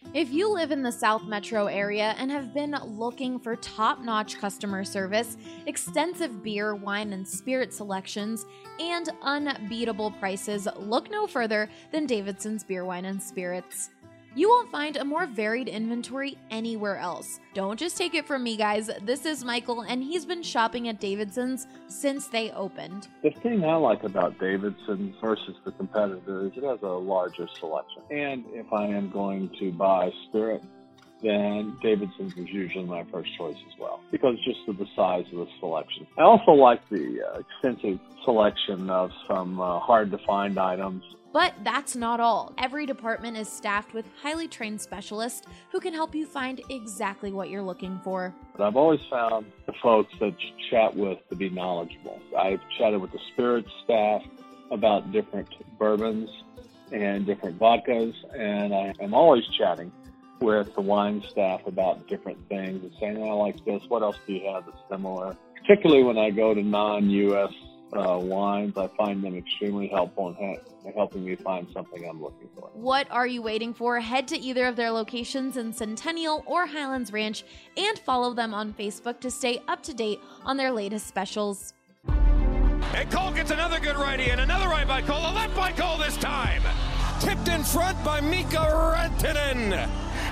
If you live in the South Metro area and have been looking for top-notch customer service, extensive beer, wine, and spirit selections, and unbeatable prices, look no further than Davidson's Beer, Wine, and Spirits. You won't find a more varied inventory anywhere else. Don't just take it from me, guys. This is Michael, and he's been shopping at Davidson's since they opened. The thing I like about Davidson's versus the competitor is it has a larger selection. And if I am going to buy spirit, then Davidson's is usually my first choice as well, because just of the size of the selection. I also like the extensive selection of some hard-to-find items. But that's not all. Every department is staffed with highly trained specialists who can help you find exactly what you're looking for. But I've always found the folks that you chat with to be knowledgeable. I've chatted with the spirits staff about different bourbons and different vodkas, and I am always chatting with the wine staff about different things and saying, I like this, what else do you have that's similar? Particularly when I go to non-U.S. wines, I find them extremely helpful in helping me find something I'm looking for. What are you waiting for? Head to either of their locations in Centennial or Highlands Ranch and follow them on Facebook to stay up to date on their latest specials. And Cole gets another good righty, and another right by Cole, a left by Cole this time. Tipped in front by Mika Rantanen.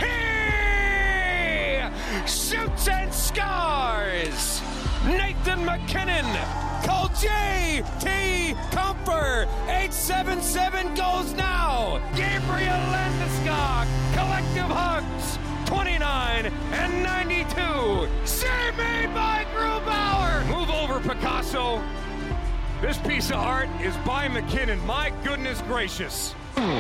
He shoots and scores. Nathan McKinnon. Call J.T. Comfer. 877 goes now. Gabriel Landeskog. Collective hugs. 29 and 92. Save made by Grubauer. Move over, Picasso. This piece of art is by McKinnon. My goodness gracious.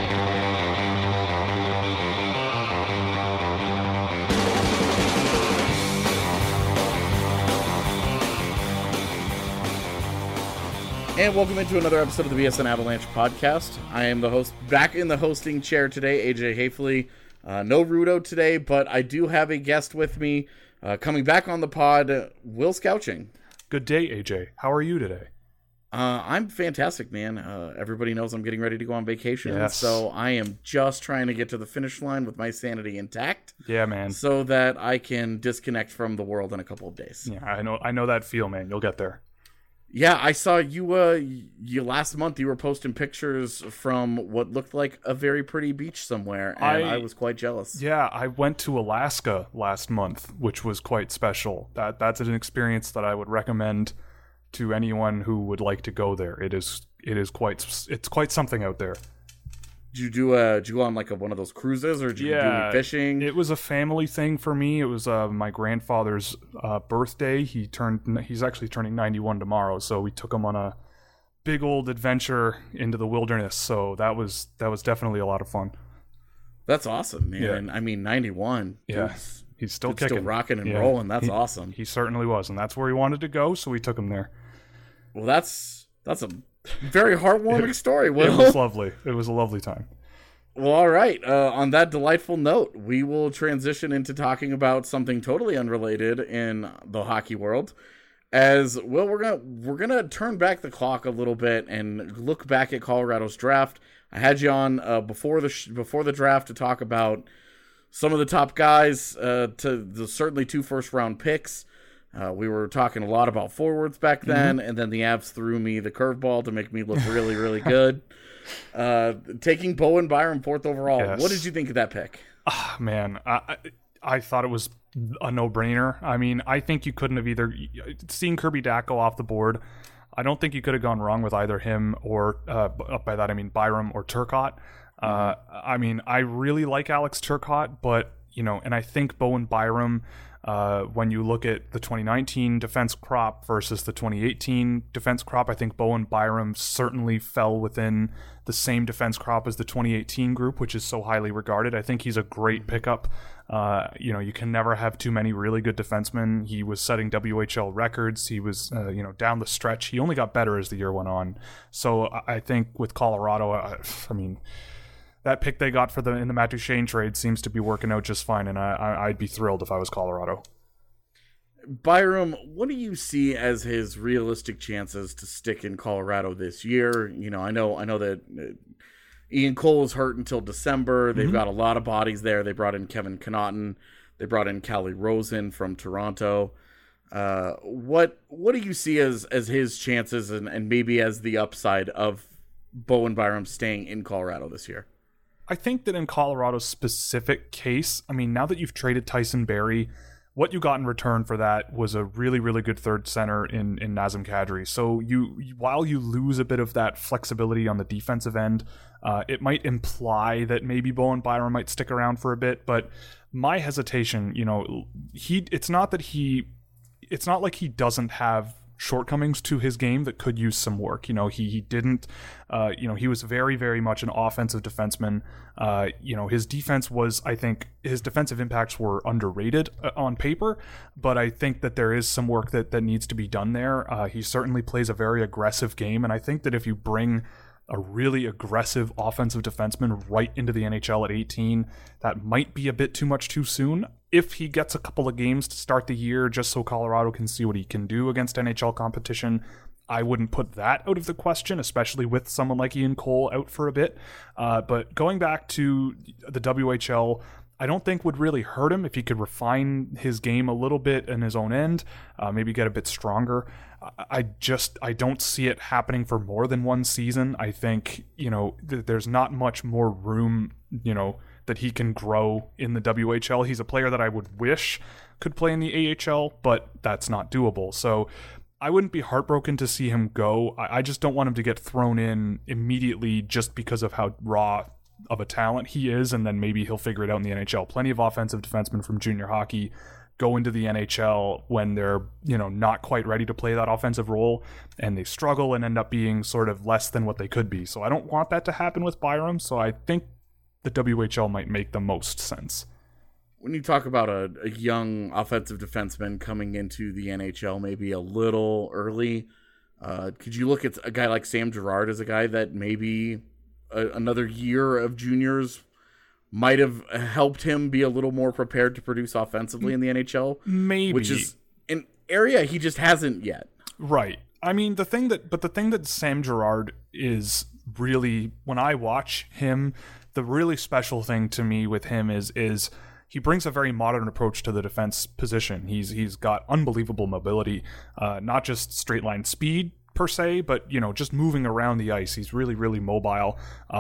And welcome into another episode of the BSN Avalanche podcast. I am the host, back in the hosting chair today, AJ Hafley. No Rudo today, but I do have a guest with me coming back on the pod, Will Scouching. Good day, AJ. How are you today? I'm fantastic, man. Everybody knows I'm getting ready to go on vacation, yes. So I am just trying to get to the finish line with my sanity intact. Yeah, man. So that I can disconnect from the world in a couple of days. Yeah, I know that feel, man. You'll get there. Yeah, I saw you last month. You were posting pictures from what looked like a very pretty beach somewhere, and I was quite jealous. Yeah, I went to Alaska last month, which was quite special. That's an experience that I would recommend to anyone who would like to go there. It's quite something out there. Did you go on like one of those cruises, or did you do any fishing? It was a family thing for me. It was my grandfather's birthday. He's actually turning 91 tomorrow, so we took him on a big old adventure into the wilderness. So that was definitely a lot of fun. That's awesome, man. Yeah. I mean, 91. Yeah, he's still kicking, still rocking and rolling. That's awesome. He certainly was, and that's where he wanted to go, so we took him there. Well, that's a very heartwarming story, Will. It was lovely. It was a lovely time. Well, all right. On that delightful note, we will transition into talking about something totally unrelated in the hockey world. As well, we're gonna turn back the clock a little bit and look back at Colorado's draft. I had you on before the draft to talk about some of the top guys, certainly 2 first-round picks. We were talking a lot about forwards back then, and then the Avs threw me the curveball to make me look really, really good. Taking Bowen Byram 4th overall. Yes. What did you think of that pick? Man, I thought it was a no-brainer. I mean, I think you couldn't have either seen Kirby Dach go off the board. I don't think you could have gone wrong with either him or, by that I mean Byram or Turcotte. I mean, I really like Alex Turcotte, but, and I think Bowen Byram, when you look at the 2019 defense crop versus the 2018 defense crop, I think Bowen Byram certainly fell within the same defense crop as the 2018 group, which is so highly regarded. I think he's a great pickup. You can never have too many really good defensemen. He was setting WHL records. He was, down the stretch. He only got better as the year went on. So I think with Colorado, I mean, that pick they got in the Matt Duchene trade seems to be working out just fine, and I'd be thrilled if I was Colorado. Byram, what do you see as his realistic chances to stick in Colorado this year? I know that Ian Cole is hurt until December. They've got a lot of bodies there. They brought in Kevin Connaughton. They brought in Callie Rosen from Toronto. What do you see as his chances and maybe as the upside of Bowen Byram staying in Colorado this year? I think that in Colorado's specific case, I mean, now that you've traded Tyson Barrie, what you got in return for that was a really, really good third center in Nazem Kadri. So while you lose a bit of that flexibility on the defensive end, it might imply that maybe Bowen Byram might stick around for a bit. But my hesitation, it's not like he doesn't have shortcomings to his game that could use some work. He didn't, he was very, very much an offensive defenseman. His defense was, I think his defensive impacts were underrated on paper, but I think that there is some work that needs to be done there. He certainly plays a very aggressive game. And I think that if you bring a really aggressive offensive defenseman right into the NHL at 18, that might be a bit too much too soon. If he gets a couple of games to start the year just so Colorado can see what he can do against NHL competition, I wouldn't put that out of the question, especially with someone like Ian Cole out for a bit. But going back to the WHL, I don't think would really hurt him if he could refine his game a little bit in his own end, maybe get a bit stronger. I don't see it happening for more than one season. I think, there's not much more room, that he can grow in the WHL. He's a player that I would wish could play in the AHL, but that's not doable. So I wouldn't be heartbroken to see him go. I just don't want him to get thrown in immediately just because of how raw of a talent he is, and then maybe he'll figure it out in the NHL. Plenty of offensive defensemen from junior hockey go into the NHL when they're, not quite ready to play that offensive role, and they struggle and end up being sort of less than what they could be. So I don't want that to happen with Byram, so I think the WHL might make the most sense. When you talk about a young offensive defenseman coming into the NHL maybe a little early, could you look at a guy like Sam Girard as a guy that maybe another year of juniors might have helped him be a little more prepared to produce offensively in the NHL? Maybe. Which is an area he just hasn't yet. Right. I mean, the thing that Sam Girard is really, when I watch him, the really special thing to me with him is he brings a very modern approach to the defense position. He's got unbelievable mobility, not just straight line speed per se, but just moving around the ice. He's really, really mobile.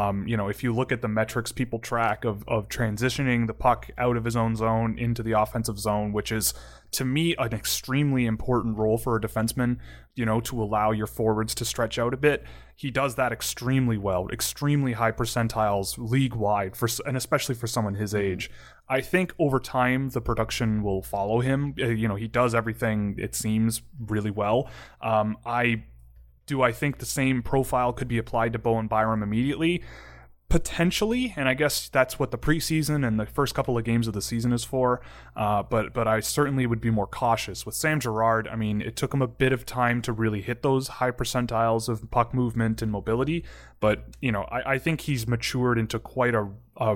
If you look at the metrics people track of transitioning the puck out of his own zone into the offensive zone, which is to me an extremely important role for a defenseman, to allow your forwards to stretch out a bit. He does that extremely well, extremely high percentiles league wide, and especially for someone his age. I think over time the production will follow him. He does everything, it seems, really well. I think the same profile could be applied to Bowen Byram immediately? Potentially, and I guess that's what the preseason and the first couple of games of the season is for. But I certainly would be more cautious. With Sam Girard, I mean, it took him a bit of time to really hit those high percentiles of puck movement and mobility. But I think he's matured into quite a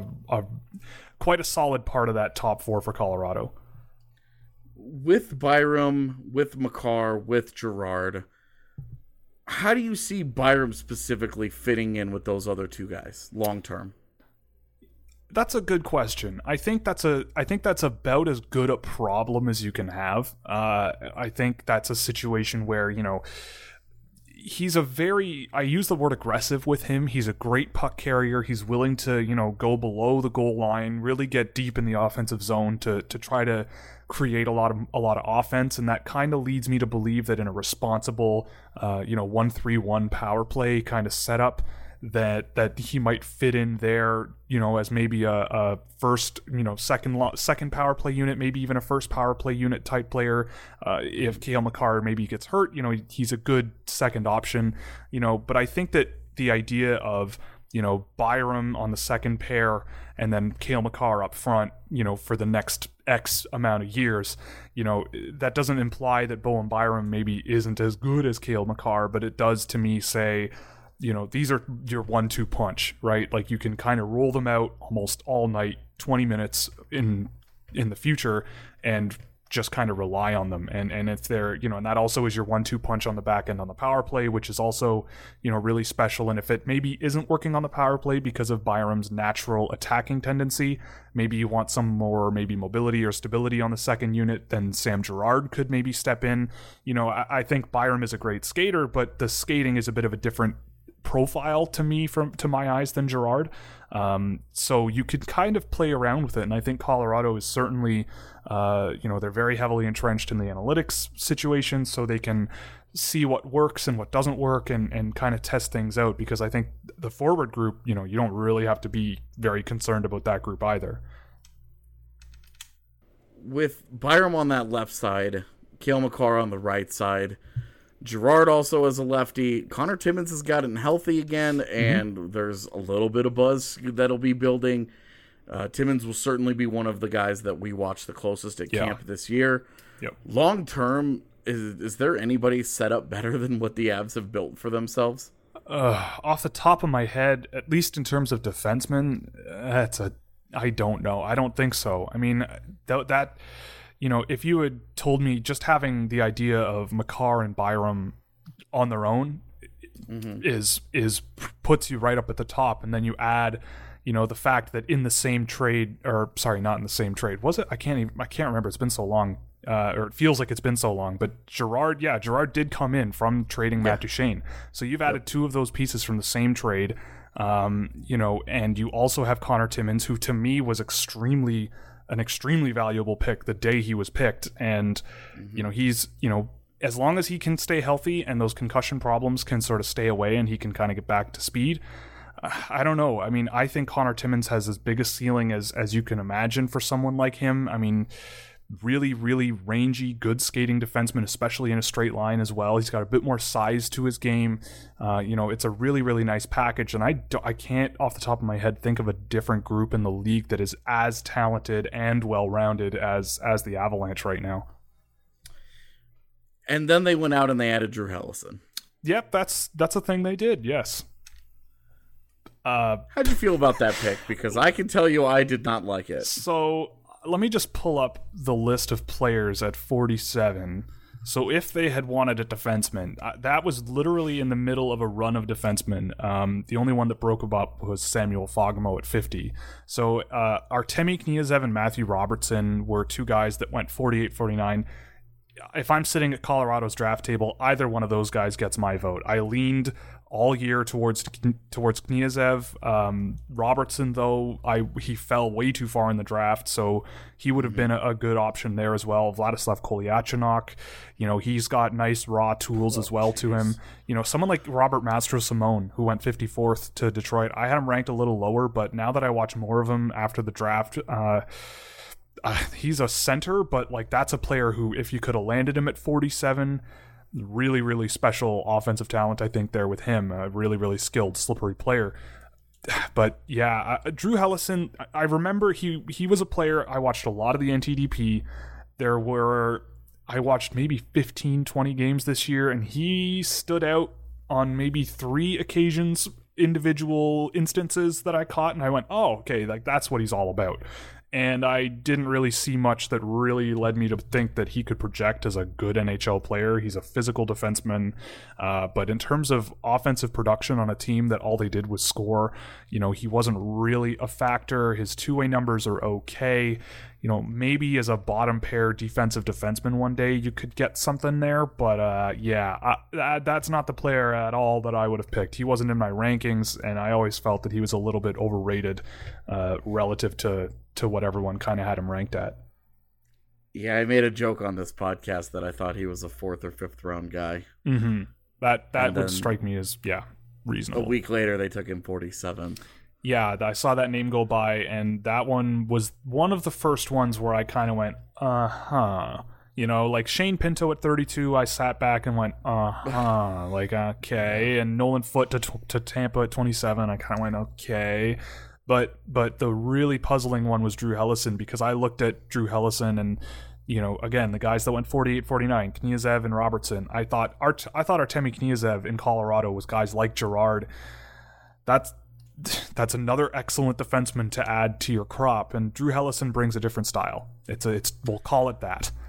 solid part of that top four for Colorado. With Byram, with Makar, with Girard, how do you see Byram specifically fitting in with those other two guys long term? That's a good question. I think that's about as good a problem as you can have. I think that's a situation where, he's I use the word aggressive with him. He's a great puck carrier. He's willing to, go below the goal line, really get deep in the offensive zone to try to create a lot of offense, and that kind of leads me to believe that in a responsible 1-3-1 power play kind of setup that he might fit in there, as maybe a first, second power play unit, maybe even a first power play unit type player. If Cale Makar maybe gets hurt, he's a good second option, but I think that the idea of Byram on the second pair and then Cale Makar up front, for the next X amount of years, that doesn't imply that Bowen Byram maybe isn't as good as Cale Makar, but it does to me say, these are your 1-2 punch, right? Like you can kind of roll them out almost all night, 20 minutes in the future, and just kind of rely on them. And if they're, and that also is your 1-2 punch on the back end on the power play, which is also, really special. And if it maybe isn't working on the power play because of Byram's natural attacking tendency, maybe you want some more maybe mobility or stability on the second unit, then Sam Girard could maybe step in. I think Byram is a great skater, but the skating is a bit of a different profile to me to my eyes than Girard. So you could kind of play around with it, and I think Colorado is certainly they're very heavily entrenched in the analytics situation, so they can see what works and what doesn't work and kind of test things out, because I think the forward group, you don't really have to be very concerned about that group either. With Byram on that left side, Cale Makar on the right side, Girard also as a lefty. Connor Timmins has gotten healthy again, and there's a little bit of buzz that'll be building. Timmins will certainly be one of the guys that we watch the closest at camp this year. Yep. Long term, is there anybody set up better than what the Avs have built for themselves? Off the top of my head, at least in terms of defensemen, I don't know. I don't think so. I mean, that if you had told me just having the idea of Makar and Byram on their own is puts you right up at the top, and then you add, the fact that in the same trade, or sorry, not in the same trade, was it? I can't remember. It's been so long, or it feels like it's been so long. But Girard did come in from trading Matt Duchene, so you've added two of those pieces from the same trade, and you also have Connor Timmins, who to me was an extremely valuable pick the day he was picked. And, he's, as long as he can stay healthy and those concussion problems can sort of stay away and he can kind of get back to speed, I don't know. I mean, I think Connor Timmins has as big a ceiling as you can imagine for someone like him. I mean, really, really rangy, good skating defenseman, especially in a straight line as well. He's got a bit more size to his game. It's a really, really nice package, and I can't, off the top of my head, think of a different group in the league that is as talented and well-rounded as the Avalanche right now. And then they went out and they added Drew Helleson. Yep, that's a thing they did, yes. How'd you feel about that pick? Because I can tell you I did not like it. So let me just pull up the list of players at 47. So if they had wanted a defenseman, that was literally in the middle of a run of defensemen. The only one that broke up was Samuel Fagemo at 50. So Artemi Kniazev and Matthew Robertson were two guys that went 48, 49. If I'm sitting at Colorado's draft table, either one of those guys gets my vote. I leaned all year towards Kniazev. Robertson, though, he fell way too far in the draft, so he would have been a good option there as well. Vladislav Kolyachonok, he's got nice raw tools as well to him. Someone like Robert Mastro-Simone, who went 54th to Detroit, I had him ranked a little lower, but now that I watch more of him after the draft, he's a center, but that's a player who, if you could have landed him at 47, really, really special offensive talent, I think, there with him. A really, really skilled, slippery player. But yeah, Drew Helleson, I remember he was a player, I watched a lot of the NTDP. I watched maybe 15, 20 games this year, and he stood out on maybe 3 occasions, individual instances that I caught, and I went, oh, okay, that's what he's all about. And I didn't really see much that really led me to think that he could project as a good NHL player. He's a physical defenseman. But in terms of offensive production on a team that all they did was score, he wasn't really a factor. His two-way numbers are okay. Maybe as a bottom pair defensive defenseman one day you could get something there. But that's not the player at all that I would have picked. He wasn't in my rankings, and I always felt that he was a little bit overrated relative to what everyone kind of had him ranked at. Yeah, I made a joke on this podcast that I thought he was a 4th or 5th round guy. Mm-hmm. That would strike me as, reasonable. A week later, they took him 47. Yeah, I saw that name go by, and that one was one of the first ones where I kind of went, like Shane Pinto at 32, I sat back and went, okay. And Nolan Foote to Tampa at 27, I kind of went, okay. But the really puzzling one was Drew Helleson, because I looked at Drew Helleson and, again, the guys that went 48, 49, Kniazev and Robertson. I thought Artemi Kniazev in Colorado was guys like Girard. That's another excellent defenseman to add to your crop, and Drew Helleson brings a different style. We'll call it that.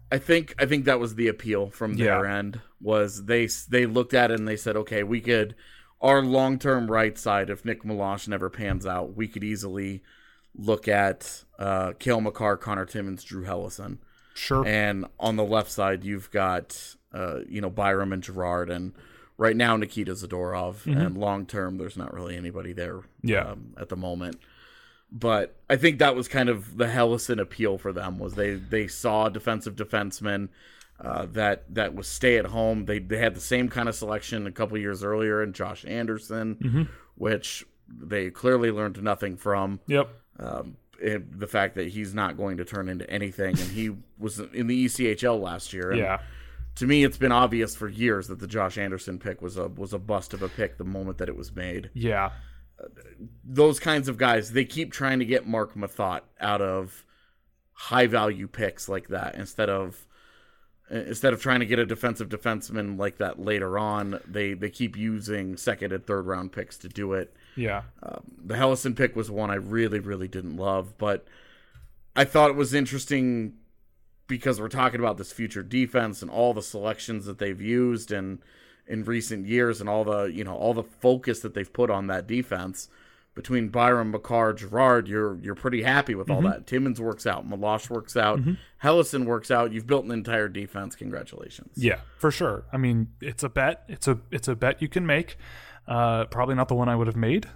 I think that was the appeal from their end, was they looked at it and they said, okay, we could, our long-term right side, if Nick Meloche never pans out, we could easily look at Cale Makar, Connor Timmins, Drew Hellison. Sure. And on the left side, you've got Byram and Girard, and right now Nikita Zadorov. Mm-hmm. And long-term, there's not really anybody there at the moment. But I think that was kind of the Hellison appeal for them, was they saw a defensive defenseman that was stay at home. They had the same kind of selection a couple years earlier in Josh Anderson, which they clearly learned nothing from. Yep. The fact that he's not going to turn into anything, and he was in the ECHL last year. And to me, it's been obvious for years that the Josh Anderson pick was a bust of a pick the moment that it was made. Yeah. Those kinds of guys, they keep trying to get Mark Mathot out of high value picks like that instead of trying to get a defensive defenseman like that later on. They keep using second and third round picks to do it. Yeah. The Hellison pick was one I really, really didn't love, but I thought it was interesting because we're talking about this future defense and all the selections that they've used and in recent years, and all the focus that they've put on that defense. Between Byram, Makar, Girard, you're pretty happy with all that. Timmins works out, Meloche works out, Hellison works out. You've built an entire defense. Congratulations. Yeah, for sure. I mean, it's a bet. It's a bet you can make. Probably not the one I would have made.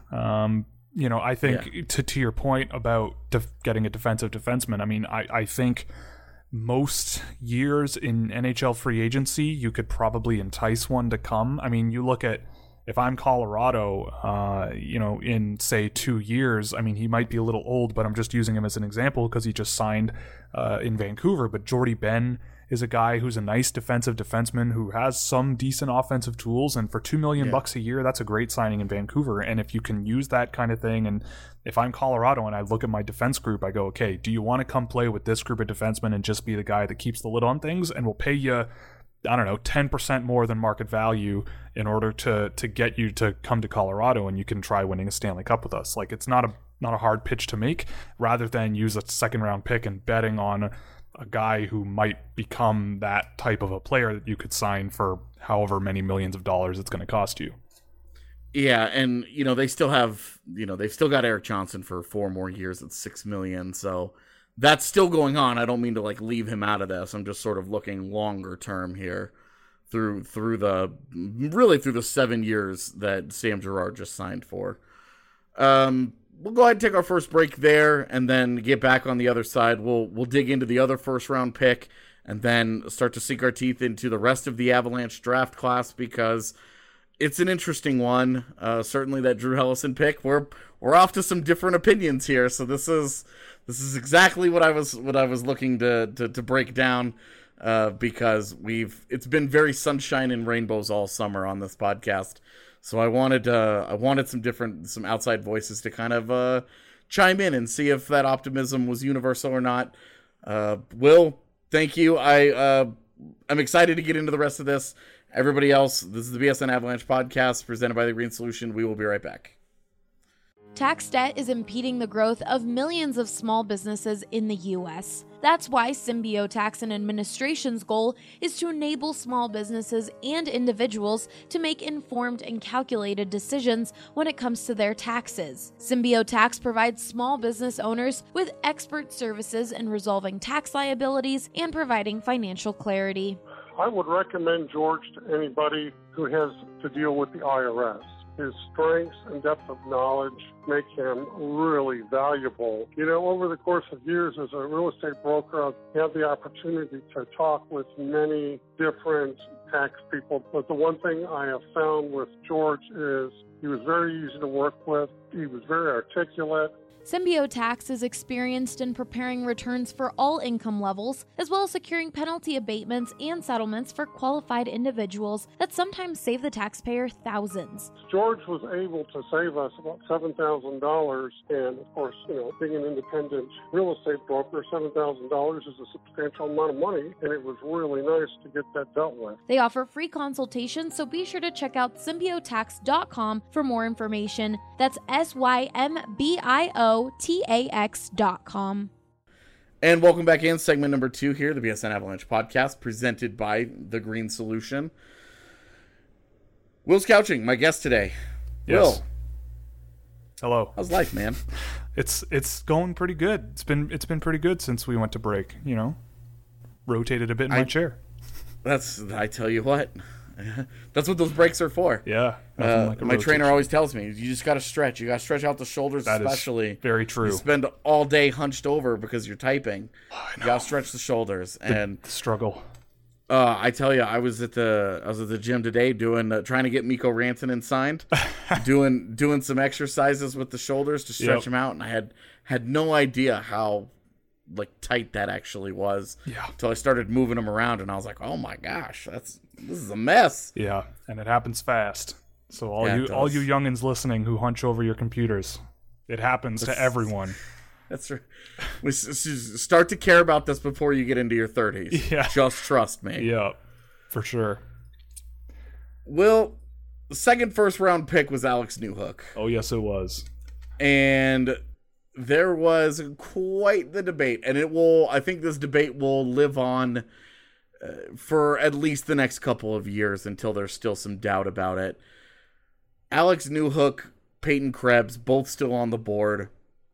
I think to your point about getting a defensive defenseman. I mean, I think most years in NHL free agency, you could probably entice one to come. I mean, you look at, if I'm Colorado, in say 2 years, I mean, he might be a little old, but I'm just using him as an example because he just signed in Vancouver. But Jordy Ben is a guy who's a nice defensive defenseman who has some decent offensive tools, and for $2 million bucks a year, that's a great signing in Vancouver. And if you can use that kind of thing, and if I'm Colorado and I look at my defense group, I go, okay, do you want to come play with this group of defensemen and just be the guy that keeps the lid on things, and we'll pay you, I don't know, 10% more than market value in order to get you to come to Colorado and you can try winning a Stanley Cup with us. Like, it's not a hard pitch to make, rather than use a second round pick and betting on a guy who might become that type of a player that you could sign for however many millions of dollars it's going to cost you. Yeah, and they still have, they've still got Eric Johnson for 4 more years at $6 million, so that's still going on. I don't mean to leave him out of this. I'm just sort of looking longer term here through the 7 years that Sam Girard just signed for. We'll go ahead and take our first break there and then get back on the other side. We'll dig into the other first round pick and then start to sink our teeth into the rest of the Avalanche draft class, because it's an interesting one. Certainly that Drew Hellison pick, we're off to some different opinions here. So this is exactly what I was looking to break down, because it's been very sunshine and rainbows all summer on this podcast. So I wanted some outside voices to kind of chime in and see if that optimism was universal or not. Will, thank you. I'm excited to get into the rest of this. Everybody else, this is the BSN Avalanche podcast presented by The Green Solution. We will be right back. Tax debt is impeding the growth of millions of small businesses in the U.S. That's why Symbio Tax and Administration's goal is to enable small businesses and individuals to make informed and calculated decisions when it comes to their taxes. Symbio Tax provides small business owners with expert services in resolving tax liabilities and providing financial clarity. I would recommend George to anybody who has to deal with the IRS. His strengths and depth of knowledge make him really valuable. Over the course of years as a real estate broker, I've had the opportunity to talk with many different tax people. But the one thing I have found with George is he was very easy to work with. He was very articulate. Symbio Tax is experienced in preparing returns for all income levels, as well as securing penalty abatements and settlements for qualified individuals that sometimes save the taxpayer thousands. George was able to save us about $7,000, and of course, being an independent real estate broker, $7,000 is a substantial amount of money, and it was really nice to get that dealt with. They offer free consultations, so be sure to check out symbiotax.com for more information. That's SYMBIOTAX.com. And welcome back in segment number 2 here, the BSN Avalanche podcast, presented by The Green Solution. Will's couching, my guest today. Yes. Will, Hello. how's life, man? It's going pretty good. It's been pretty good since we went to break. You know, rotated a bit in my chair. I tell you what, that's what those breaks are for. Yeah. Nothing like a my trainer rotation. always tells me, you just got to stretch. You got to stretch out the shoulders, That is especially. very true. You spend all day hunched over because you're typing. You got to stretch the shoulders. And The struggle. I tell you, I was at the gym today trying to get Mikko Rantanen signed, doing some exercises with the shoulders to stretch them out, and I had no idea how tight that actually was. Yeah. Until I started moving them around, and I was like, oh my gosh, this is a mess. Yeah, and it happens fast. So all Yeah, it you does. youngins listening who hunch over your computers, it happens to everyone. That's right. We start to care about this before you get into your 30s. Yeah. Just trust me. Yeah, for sure. Will, the second first round pick was Alex Newhook. Oh yes, it was. And there was quite the debate, and I think this debate will live on for at least the next couple of years until there's still some doubt about it. Alex Newhook, Peyton Krebs, both still on the board.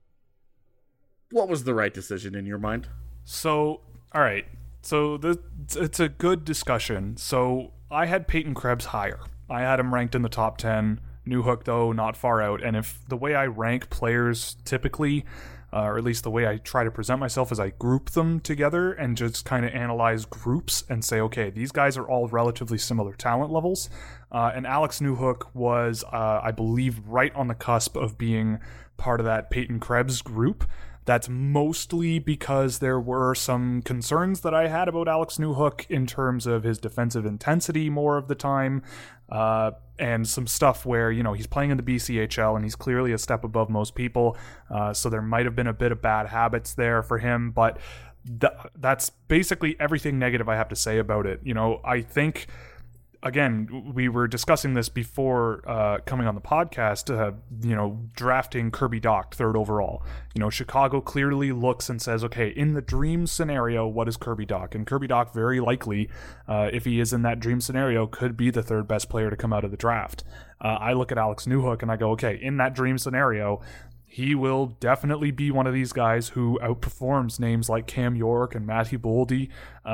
What was the right decision in your mind? So, all right. So it's a good discussion. So I had Peyton Krebs higher. I had him ranked in the top 10. Newhook, though, not far out. And if the way I rank players typically, or at least the way I try to present myself, is I group them together and just kind of analyze groups and say, okay, these guys are all relatively similar talent levels. And Alex Newhook was, I believe, right on the cusp of being part of that Peyton Krebs group. That's mostly because there were some concerns that I had about Alex Newhook in terms of his defensive intensity more of the time, and some stuff where, he's playing in the BCHL and he's clearly a step above most people, so there might have been a bit of bad habits there for him, but that's basically everything negative I have to say about it. I think... Again, we were discussing this before coming on the podcast, drafting Kirby Dach third overall. Chicago clearly looks and says, okay, in the dream scenario, what is Kirby Dach? And Kirby Dach very likely, if he is in that dream scenario, could be the third best player to come out of the draft. I look at Alex Newhook and I go, okay, in that dream scenario, he will definitely be one of these guys who outperforms names like Cam York and Matthew Boldy.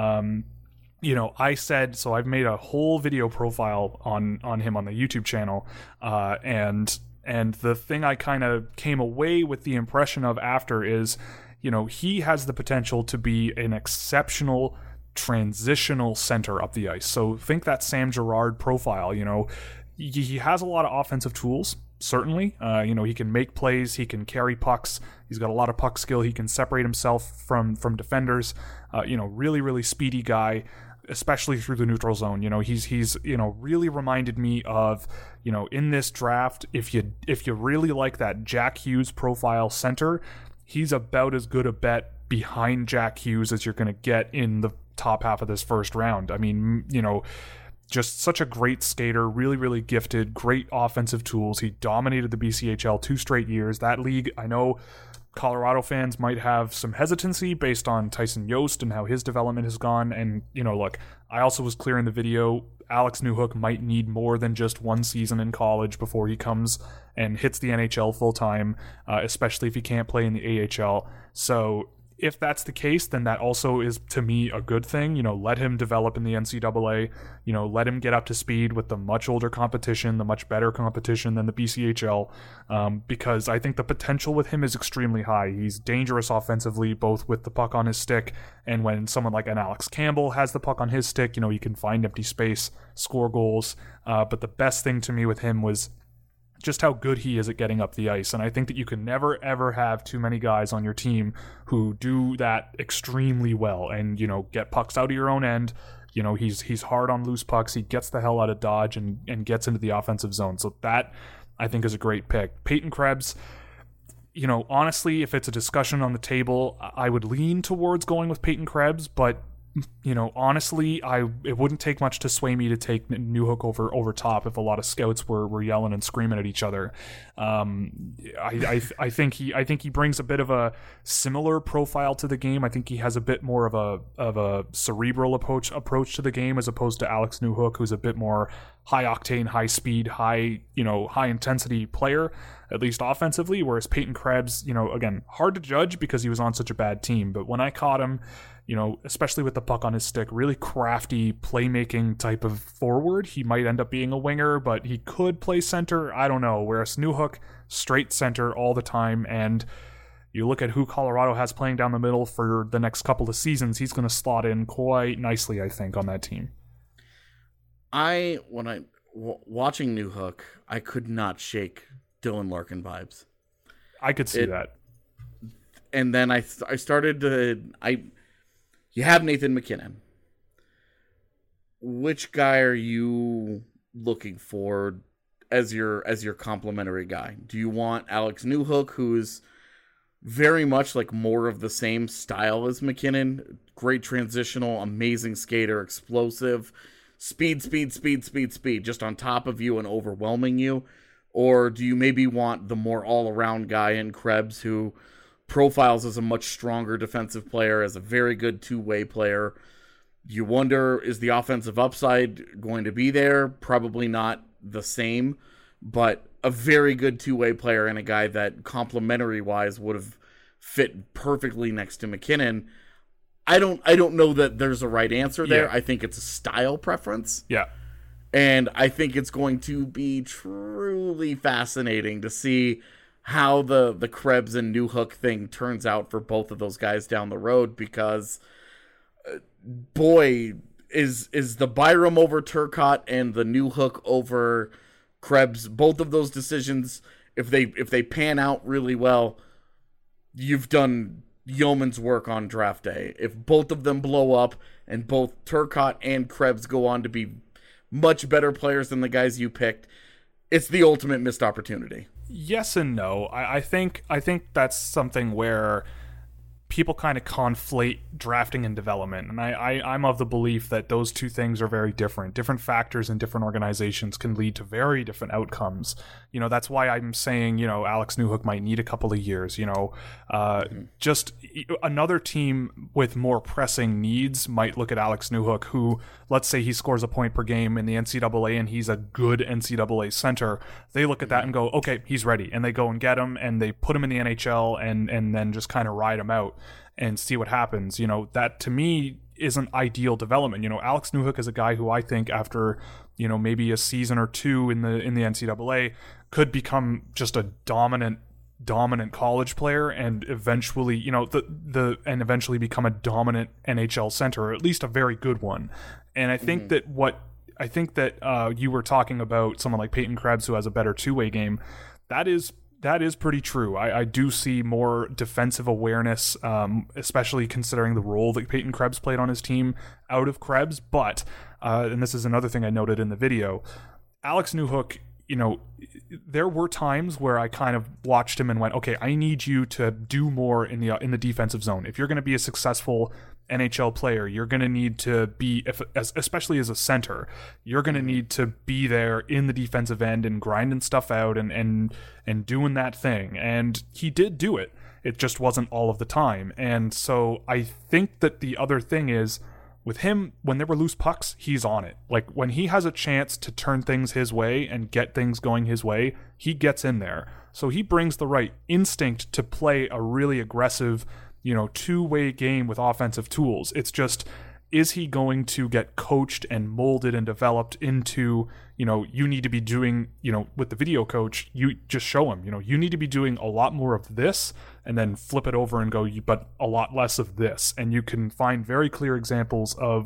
I said, so I've made a whole video profile on him on the YouTube channel, and the thing I kind of came away with the impression of after is, he has the potential to be an exceptional transitional center up the ice. So think that Sam Girard profile. He has a lot of offensive tools. Certainly, he can make plays, he can carry pucks, he's got a lot of puck skill, he can separate himself from defenders. Really, really speedy guy, especially through the neutral zone. He's really reminded me of, in this draft, if you really like that Jack Hughes profile center, he's about as good a bet behind Jack Hughes as you're going to get in the top half of this first round. I mean, just such a great skater, really, really gifted, great offensive tools. He dominated the BCHL 2 straight years. That league, I know Colorado fans might have some hesitancy based on Tyson Yost and how his development has gone. And, look, I also was clear in the video, Alex Newhook might need more than just one season in college before he comes and hits the NHL full time, especially if he can't play in the AHL. So if that's the case, then that also is, to me, a good thing. Let him develop in the NCAA. Let him get up to speed with the much older competition, the much better competition than the BCHL, because I think the potential with him is extremely high. He's dangerous offensively, both with the puck on his stick, and when someone like an Alex Campbell has the puck on his stick, he can find empty space, score goals. But the best thing to me with him was just how good he is at getting up the ice. And I think that you can never, ever have too many guys on your team who do that extremely well and, get pucks out of your own end. He's hard on loose pucks. He gets the hell out of dodge and gets into the offensive zone. So that, I think, is a great pick. Peyton Krebs, honestly, if it's a discussion on the table, I would lean towards going with Peyton Krebs, but honestly, it wouldn't take much to sway me to take Newhook over top if a lot of scouts were yelling and screaming at each other. I think he brings a bit of a similar profile to the game. I think he has a bit more of a cerebral approach to the game as opposed to Alex Newhook, who's a bit more high octane, high speed, high intensity player, at least offensively. Whereas Peyton Krebs, again, hard to judge because he was on such a bad team. But when I caught him, especially with the puck on his stick, really crafty playmaking type of forward. He might end up being a winger, but he could play center. I don't know. Whereas Newhook, straight center all the time. And you look at who Colorado has playing down the middle for the next couple of seasons, he's going to slot in quite nicely, I think, on that team. Watching Newhook, I could not shake Dylan Larkin vibes. I could see that. And then I started to... You have Nathan MacKinnon. Which guy are you looking for as your complimentary guy? Do you want Alex Newhook, who's very much like more of the same style as MacKinnon? Great transitional, amazing skater, explosive, speed, just on top of you and overwhelming you? Or do you maybe want the more all-around guy in Krebs, who profiles as a much stronger defensive player, as a very good two-way player? You wonder, is the offensive upside going to be there? Probably not the same, but a very good two-way player and a guy that complementary-wise would have fit perfectly next to MacKinnon. I don't know that there's a right answer there. Yeah. I think it's a style preference. Yeah. And I think it's going to be truly fascinating to see how the Krebs and Newhook thing turns out for both of those guys down the road, because boy, is the Byram over Turcotte and the Newhook over Krebs, both of those decisions, if they pan out really well, you've done yeoman's work on draft day. If both of them blow up and both Turcotte and Krebs go on to be much better players than the guys you picked, it's the ultimate missed opportunity. Yes and no. I think that's something where people kind of conflate drafting and development. And I'm of the belief that those two things are very different. Different factors in different organizations can lead to very different outcomes. That's why I'm saying, Alex Newhook might need a couple of years. Just another team with more pressing needs might look at Alex Newhook, who, let's say he scores a point per game in the NCAA and he's a good NCAA center. They look at that and go, okay, he's ready. And they go and get him and they put him in the NHL and then just kind of ride him out and see what happens. That to me isn't ideal development. Alex Newhook is a guy who I think after, maybe a season or two in the NCAA could become just a dominant college player and eventually, and eventually become a dominant NHL center, or at least a very good one. And I think that you were talking about someone like Peyton Krebs, who has a better two-way game. That is pretty true. I do see more defensive awareness, especially considering the role that Peyton Krebs played on his team out of Krebs. But, and this is another thing I noted in the video, Alex Newhook, there were times where I kind of watched him and went, okay, I need you to do more in the defensive zone. If you're going to be a successful NHL player, you're going to need to be, especially as a center, you're going to need to be there in the defensive end and grinding stuff out and doing that thing. And he did do it. It just wasn't all of the time. And so I think that the other thing is, with him, when there were loose pucks, he's on it. Like, when he has a chance to turn things his way and get things going his way, he gets in there. So he brings the right instinct to play a really aggressive, two-way game with offensive tools. It's just, is he going to get coached and molded and developed into, you need to be doing, with the video coach, you just show him, you need to be doing a lot more of this, and then flip it over and go, but a lot less of this. And you can find very clear examples of,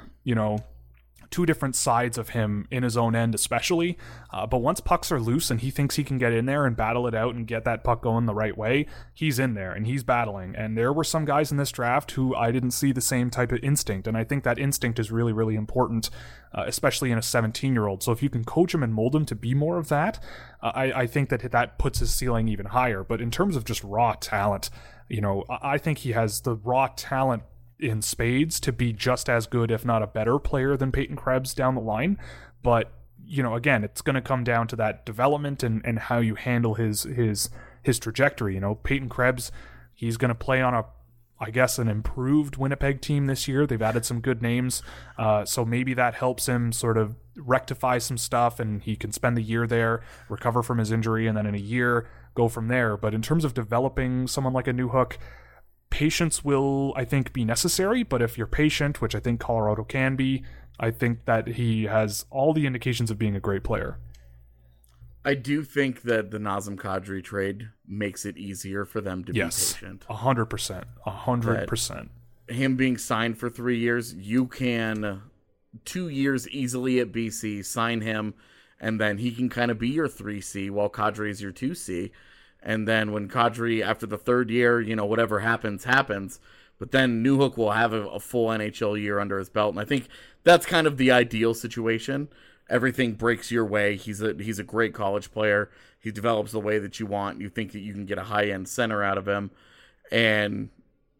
two different sides of him in his own end, especially. But once pucks are loose and he thinks he can get in there and battle it out and get that puck going the right way, he's in there and he's battling. And there were some guys in this draft who I didn't see the same type of instinct. And I think that instinct is really, really important, especially in a 17-year-old. So if you can coach him and mold him to be more of that, I think that puts his ceiling even higher. But in terms of just raw talent, I think he has the raw talent in spades to be just as good, if not a better player than Peyton Krebs down the line. But, again, it's going to come down to that development and how you handle his trajectory. Peyton Krebs, he's going to play on an improved Winnipeg team this year. They've added some good names. So maybe that helps him sort of rectify some stuff, and he can spend the year there, recover from his injury, and then in a year go from there. But in terms of developing someone like a Newhook, patience will, I think, be necessary. But if you're patient, which I think Colorado can be, I think that he has all the indications of being a great player. I do think that the Nazem Kadri trade makes it easier for them to be patient. 100%. 100%. Him being signed for 3 years, you can 2 years easily at BC, sign him, and then he can kind of be your 3C while Kadri is your 2C. And then when Kadri, after the third year, whatever happens. But then Newhook will have a full NHL year under his belt. And I think that's kind of the ideal situation. Everything breaks your way. He's a great college player. He develops the way that you want. You think that you can get a high-end center out of him. And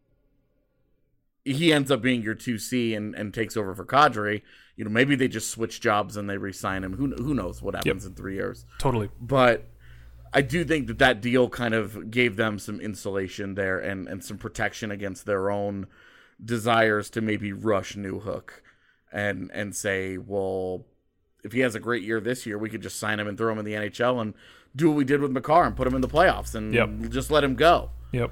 he ends up being your 2C and takes over for Kadri. Maybe they just switch jobs and they re-sign him. Who knows what happens in 3 years. Totally. But I do think that deal kind of gave them some insulation there and some protection against their own desires to maybe rush Newhook and say, well, if he has a great year this year, we could just sign him and throw him in the NHL and do what we did with Makar and put him in the playoffs and just let him go. Yep.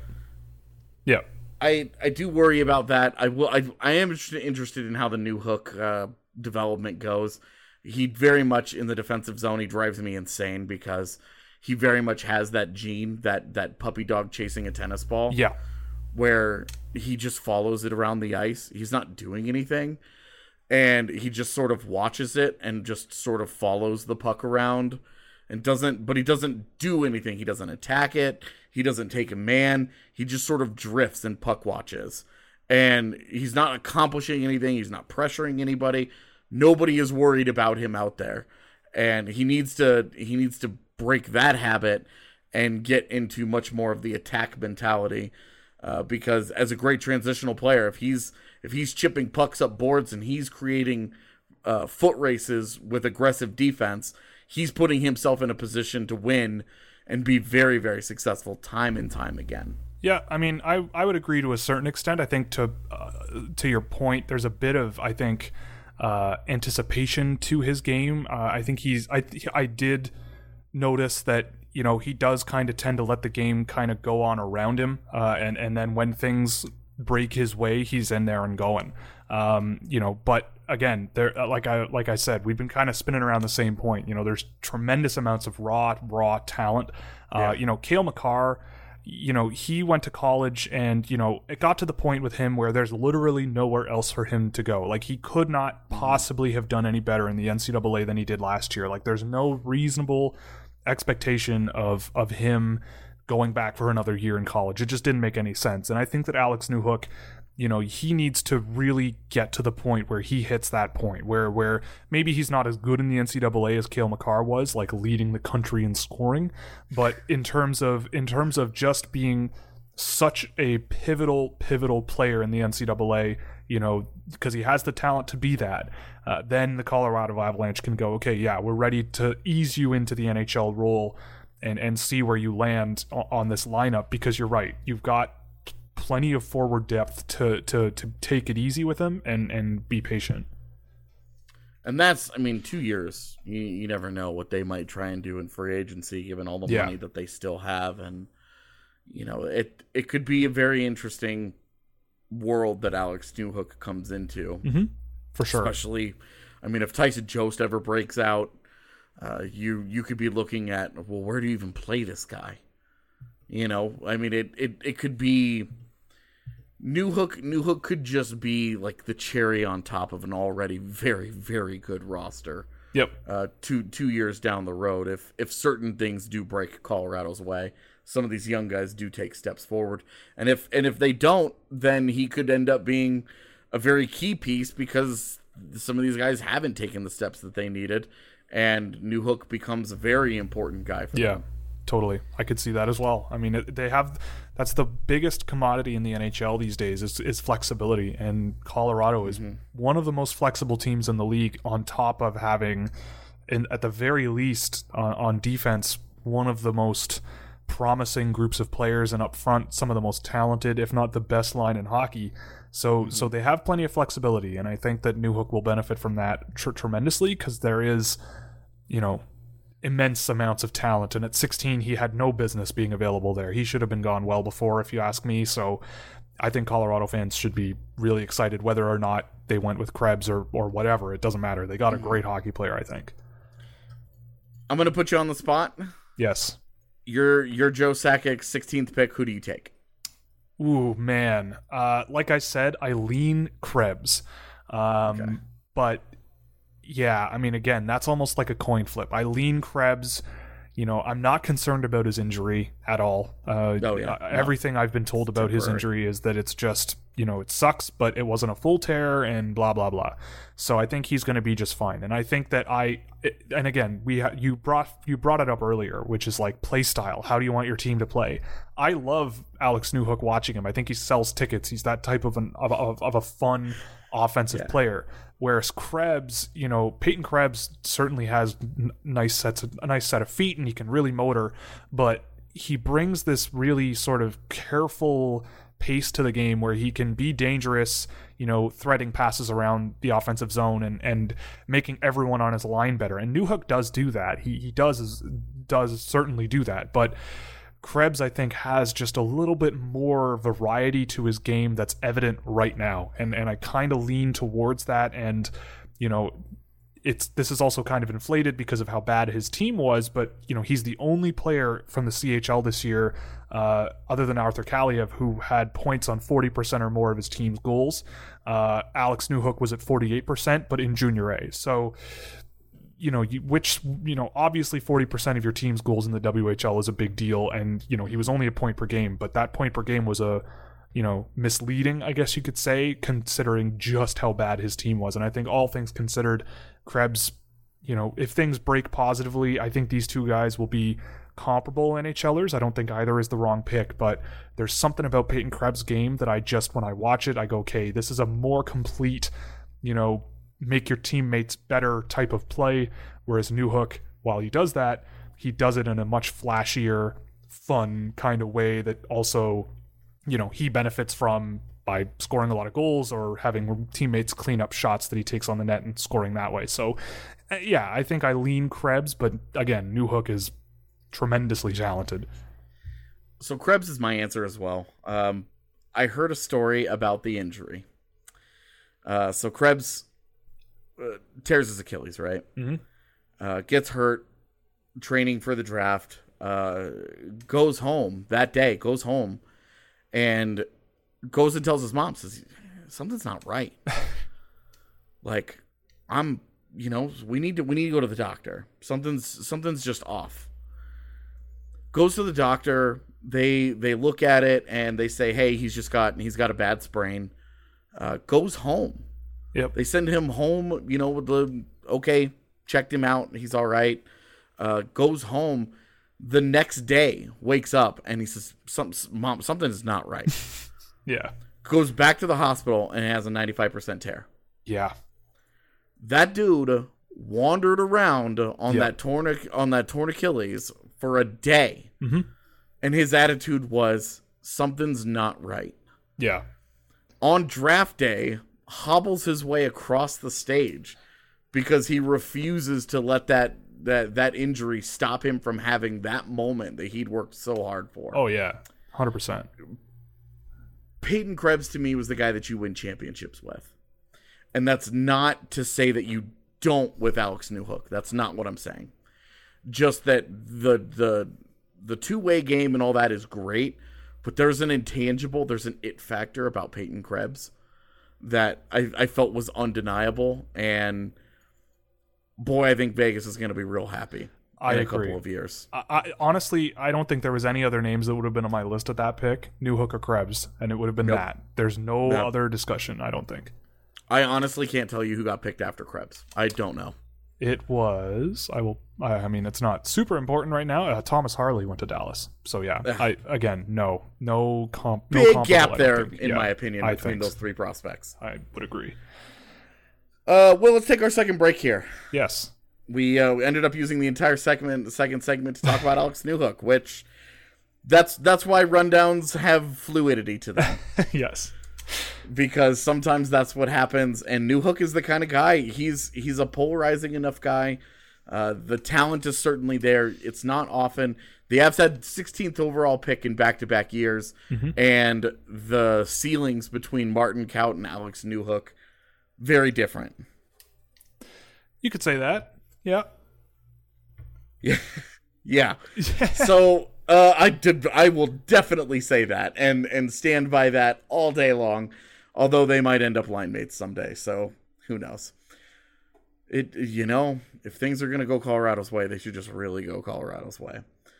I do worry about that. I am interested in how the Newhook development goes. He very much in the defensive zone, he drives me insane because he very much has that gene, that puppy dog chasing a tennis ball. Yeah. Where he just follows it around the ice. He's not doing anything. And he just sort of watches it and just sort of follows the puck around and he doesn't do anything. He doesn't attack it. He doesn't take a man. He just sort of drifts and puck watches. And he's not accomplishing anything. He's not pressuring anybody. Nobody is worried about him out there. And he needs to break that habit and get into much more of the attack mentality. Because as a great transitional player, if he's chipping pucks up boards and he's creating foot races with aggressive defense, he's putting himself in a position to win and be very, very successful time and time again. Yeah, I mean, I would agree to a certain extent. I think to your point, there's a bit of, I think, anticipation to his game. I think I did notice that, he does kind of tend to let the game kind of go on around him. And then when things break his way, he's in there and going. But again, there, like I said, we've been kind of spinning around the same point. There's tremendous amounts of raw talent. Cale Makar, he went to college and, it got to the point with him where there's literally nowhere else for him to go. Like, he could not possibly have done any better in the NCAA than he did last year. Like, there's no reasonable expectation of him going back for another year in college. It just didn't make any sense. And I think that Alex Newhook, he needs to really get to the point where he hits that point where maybe he's not as good in the NCAA as Cale Makar was, like leading the country in scoring, but in terms of just being such a pivotal player in the NCAA, because he has the talent to be that, then the Colorado Avalanche can go, okay, yeah, we're ready to ease you into the NHL role and see where you land on this lineup, because you're right, you've got plenty of forward depth to take it easy with him and be patient. And that's, 2 years. You never know what they might try and do in free agency, given all the money that they still have. And, it could be a very interesting world that Alex Newhook comes into. Mm-hmm. For sure. Especially, if Tyson Jost ever breaks out, you could be looking at, well, where do you even play this guy? It could be Newhook could just be like the cherry on top of an already very, very good roster. Yep. 2 years down the road, if certain things do break Colorado's way, some of these young guys do take steps forward, and if they don't, then he could end up being a very key piece, because some of these guys haven't taken the steps that they needed, and Newhook becomes a very important guy for them. Totally. I could see that as well. I mean, that's the biggest commodity in the NHL these days is flexibility. And Colorado is one of the most flexible teams in the league, on top of having, at the very least, on defense, one of the most promising groups of players, and up front, some of the most talented, if not the best line in hockey. So they have plenty of flexibility. And I think that Newhook will benefit from that tremendously, because there is, immense amounts of talent, and at 16 he had no business being available there. He should have been gone well before, if you ask me. So I think Colorado fans should be really excited, whether or not they went with Krebs or whatever. It doesn't matter. They got a great hockey player, I think. I'm going to put you on the spot. Yes. You're Joe Sakic's 16th pick. Who do you take? Ooh, man. Like I said, I lean Krebs. But yeah, I mean, again, that's almost like a coin flip. I lean Krebs. I'm not concerned about his injury at all. Everything I've been told about his injury is that it's just, it sucks, but it wasn't a full tear and blah, blah, blah. So I think he's going to be just fine. And I think that and again, you brought it up earlier, which is like play style. How do you want your team to play? I love Alex Newhook watching him. I think he sells tickets. He's that type of a fun offensive player. Whereas Krebs, Peyton Krebs certainly has a nice set of feet, and he can really motor, but he brings this really sort of careful pace to the game where he can be dangerous, threading passes around the offensive zone and making everyone on his line better. And Newhook does do that. He does certainly do that, but Krebs, I think, has just a little bit more variety to his game that's evident right now. And I kind of lean towards that. And, this is also kind of inflated because of how bad his team was. But, he's the only player from the CHL this year, other than Arthur Kaliev, who had points on 40% or more of his team's goals. Alex Newhook was at 48%, but in Junior A. So, obviously 40% of your team's goals in the WHL is a big deal, and he was only a point per game, but that point per game was misleading, I guess you could say, considering just how bad his team was. And I think, all things considered, Krebs, if things break positively, I think these two guys will be comparable NHLers. I don't think either is the wrong pick, but there's something about Peyton Krebs' game that when I watch it, I go, okay, this is a more complete, make your teammates better type of play. Whereas Newhook, while he does that, he does it in a much flashier, fun kind of way that also, he benefits from by scoring a lot of goals or having teammates clean up shots that he takes on the net and scoring that way. So yeah, I think I lean Krebs, but again, Newhook is tremendously talented. So Krebs is my answer as well. I heard a story about the injury. So Krebs tears his Achilles, right? Mm-hmm. Gets hurt training for the draft, goes home that day, and goes and tells his mom, says, something's not right. Like, we need to go to the doctor. Something's just off. Goes to the doctor. They look at it and they say, hey, he's got a bad sprain. Goes home. Yep. They send him home, with checked him out. He's all right. Goes home. The next day, wakes up and he says, Mom, something is not right. Yeah. Goes back to the hospital and has a 95% tear. Yeah. That dude wandered around on that torn Achilles for a day. Mm-hmm. And his attitude was, something's not right. Yeah. On draft day, hobbles his way across the stage because he refuses to let that injury stop him from having that moment that he'd worked so hard for. Oh yeah, 100%. Peyton Krebs to me was the guy that you win championships with, and that's not to say that you don't with Alex Newhook. That's not what I'm saying. Just that the two-way game and all that is great, but there's an intangible, there's an it factor about Peyton Krebs that I felt was undeniable, and boy, I think Vegas is going to be real happy in a couple of years. I honestly, I don't think there was any other names that would have been on my list at that pick, Newhook or Krebs, and it would have been that. There's no other discussion, I don't think. I honestly can't tell you who got picked after Krebs. I don't know. It was. I mean, it's not super important right now. Thomas Harley went to Dallas, so yeah. No big gap there, in my opinion, between those three prospects. I would agree. Well, let's take our second break here. Yes, we ended up using the entire second segment to talk about Alex Newhook, which that's why rundowns have fluidity to them. Yes. Because sometimes that's what happens, and Newhook is the kind of guy. He's a polarizing enough guy. The talent is certainly there. It's not often. The Avs had 16th overall pick in back-to-back years, and the ceilings between Martin Kaut and Alex Newhook, very different. You could say that. Yeah. Yeah. So I will definitely say that and stand by that all day long. Although they might end up line mates someday, so who knows? If things are gonna go Colorado's way, they should just really go Colorado's way.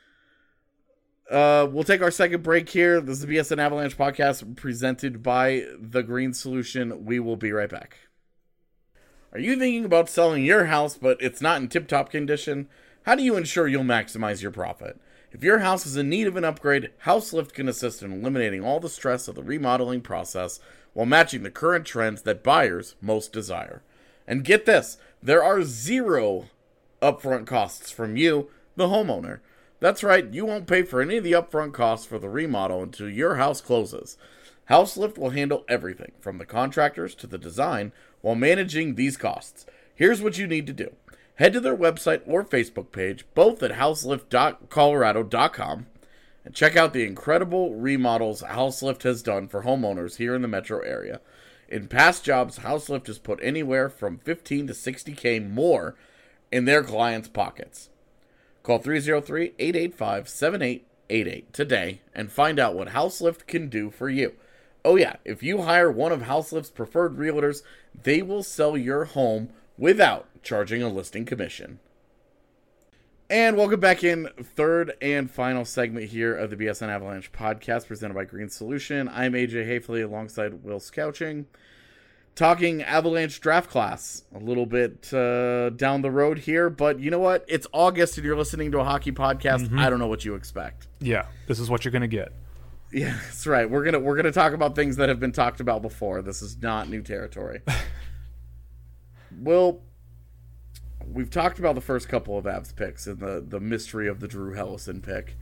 We'll take our second break here. This is the BSN Avalanche podcast presented by The Green Solution. We will be right back. Are you thinking about selling your house, but it's not in tip-top condition? How do you ensure you'll maximize your profit? If your house is in need of an upgrade, HouseLift can assist in eliminating all the stress of the remodeling process while matching the current trends that buyers most desire. And get this, there are 0 upfront costs from you, the homeowner. That's right, you won't pay for any of the upfront costs for the remodel until your house closes. HouseLift will handle everything, from the contractors to the design, while managing these costs. Here's what you need to do. Head to their website or Facebook page, both at houselift.colorado.com, and check out the incredible remodels HouseLift has done for homeowners here in the metro area. In past jobs, HouseLift has put anywhere from $15,000 to $60,000 more in their clients' pockets. Call 303-885-7888 today and find out what HouseLift can do for you. Oh yeah, if you hire one of HouseLift's preferred realtors, they will sell your home without charging a listing commission. And welcome back in, third and final segment here of the BSN Avalanche podcast presented by Green Solution. I'm AJ Hafley alongside Will Scouching, talking Avalanche draft class a little bit down the road here. But you know what? It's August and you're listening to a hockey podcast. I don't know what you expect. Yeah, this is what you're going to get. Yeah, that's right. We're gonna talk about things that have been talked about before. This is not new territory. Well, we've talked about the first couple of Avs picks and the mystery of the Drew Helleson pick.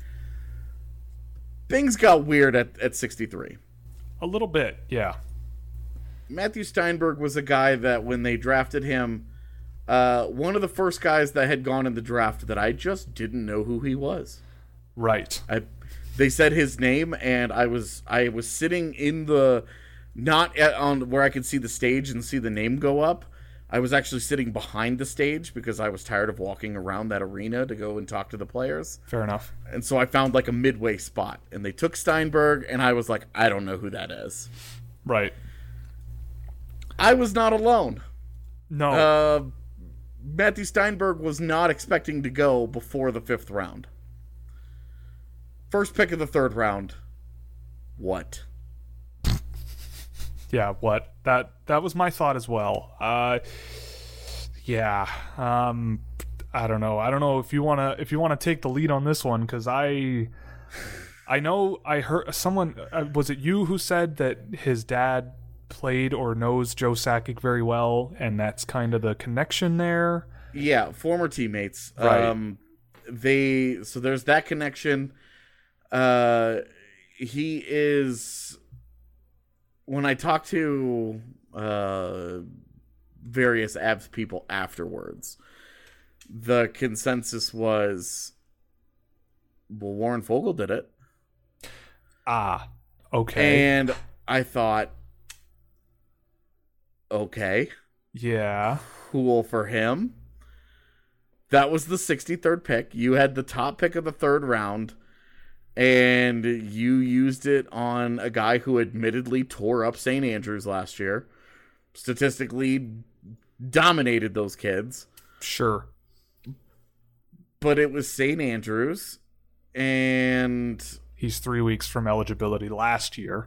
Things got weird at 63. A little bit, yeah. Matthew Steinberg was a guy that when they drafted him, one of the first guys that had gone in the draft that I just didn't know who he was. Right. They said his name, and I was sitting in the on where I could see the stage and see the name go up. I was actually sitting behind the stage because I was tired of walking around that arena to go and talk to the players. Fair enough. And so I found like a midway spot, and they took Steinberg, and I was like, I don't know who that is. Right. I was not alone. No. Matthew Steinberg was not expecting to go before the 5th round. First pick of the 3rd round. What? Yeah, what? That was my thought as well. Yeah. I don't know. I don't know if you wanna take the lead on this one, because I know I heard someone. Was it you who said that his dad played or knows Joe Sakic very well, and that's kind of the connection there? Yeah, former teammates. Right. So there's that connection. He is. When I talked to various Avs people afterwards, the consensus was, well, Warren Fogle did it. Ah, okay. And I thought, okay. Yeah. Cool for him. That was the 63rd pick. You had the top pick of the 3rd round, and you used it on a guy who admittedly tore up St. Andrews last year. Statistically dominated those kids. Sure. But it was St. Andrews, and he's 3 weeks from eligibility last year.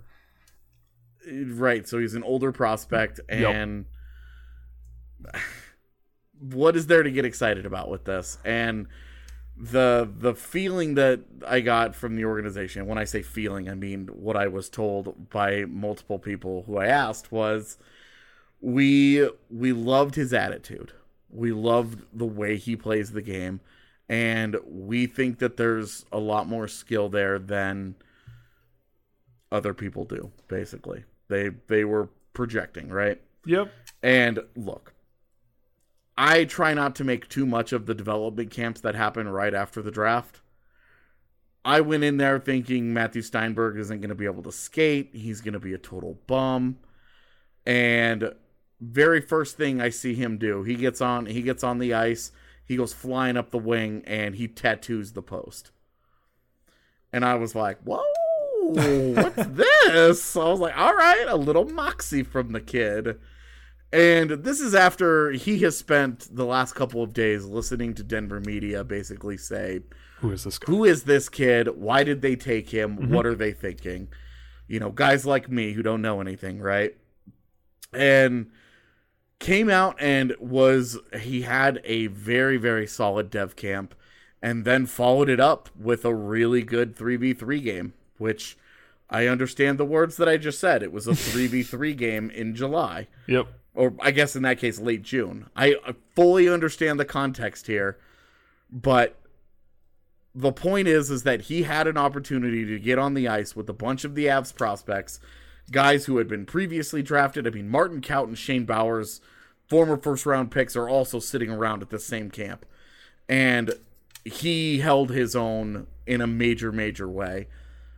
Right, so he's an older prospect, and what is there to get excited about with this? And the feeling that I got from the organization, when I say feeling, I mean what I was told by multiple people who I asked, was we loved his attitude. We loved the way he plays the game, and we think that there's a lot more skill there than other people do, basically. They were projecting, right? Yep. And look, I try not to make too much of the development camps that happen right after the draft. I went in there thinking Matthew Steinberg isn't going to be able to skate. He's going to be a total bum. And very first thing I see him do, he gets on the ice, he goes flying up the wing, and he tattoos the post. And I was like, whoa, what's this? I was like, all right, a little moxie from the kid. And this is after he has spent the last couple of days listening to Denver media basically say, who is this guy? Who is this kid? Why did they take him? Mm-hmm. What are they thinking? You know, guys like me who don't know anything, right? And came out and he had a very, very solid dev camp, and then followed it up with a really good 3v3 game, which I understand the words that I just said. It was a 3v3 game in July. Yep. Or I guess in that case, late June. I fully understand the context here, but the point is that he had an opportunity to get on the ice with a bunch of the Avs prospects, guys who had been previously drafted. I mean, Martin Kaut and Shane Bowers, former first-round picks, are also sitting around at the same camp. And he held his own in a major, major way.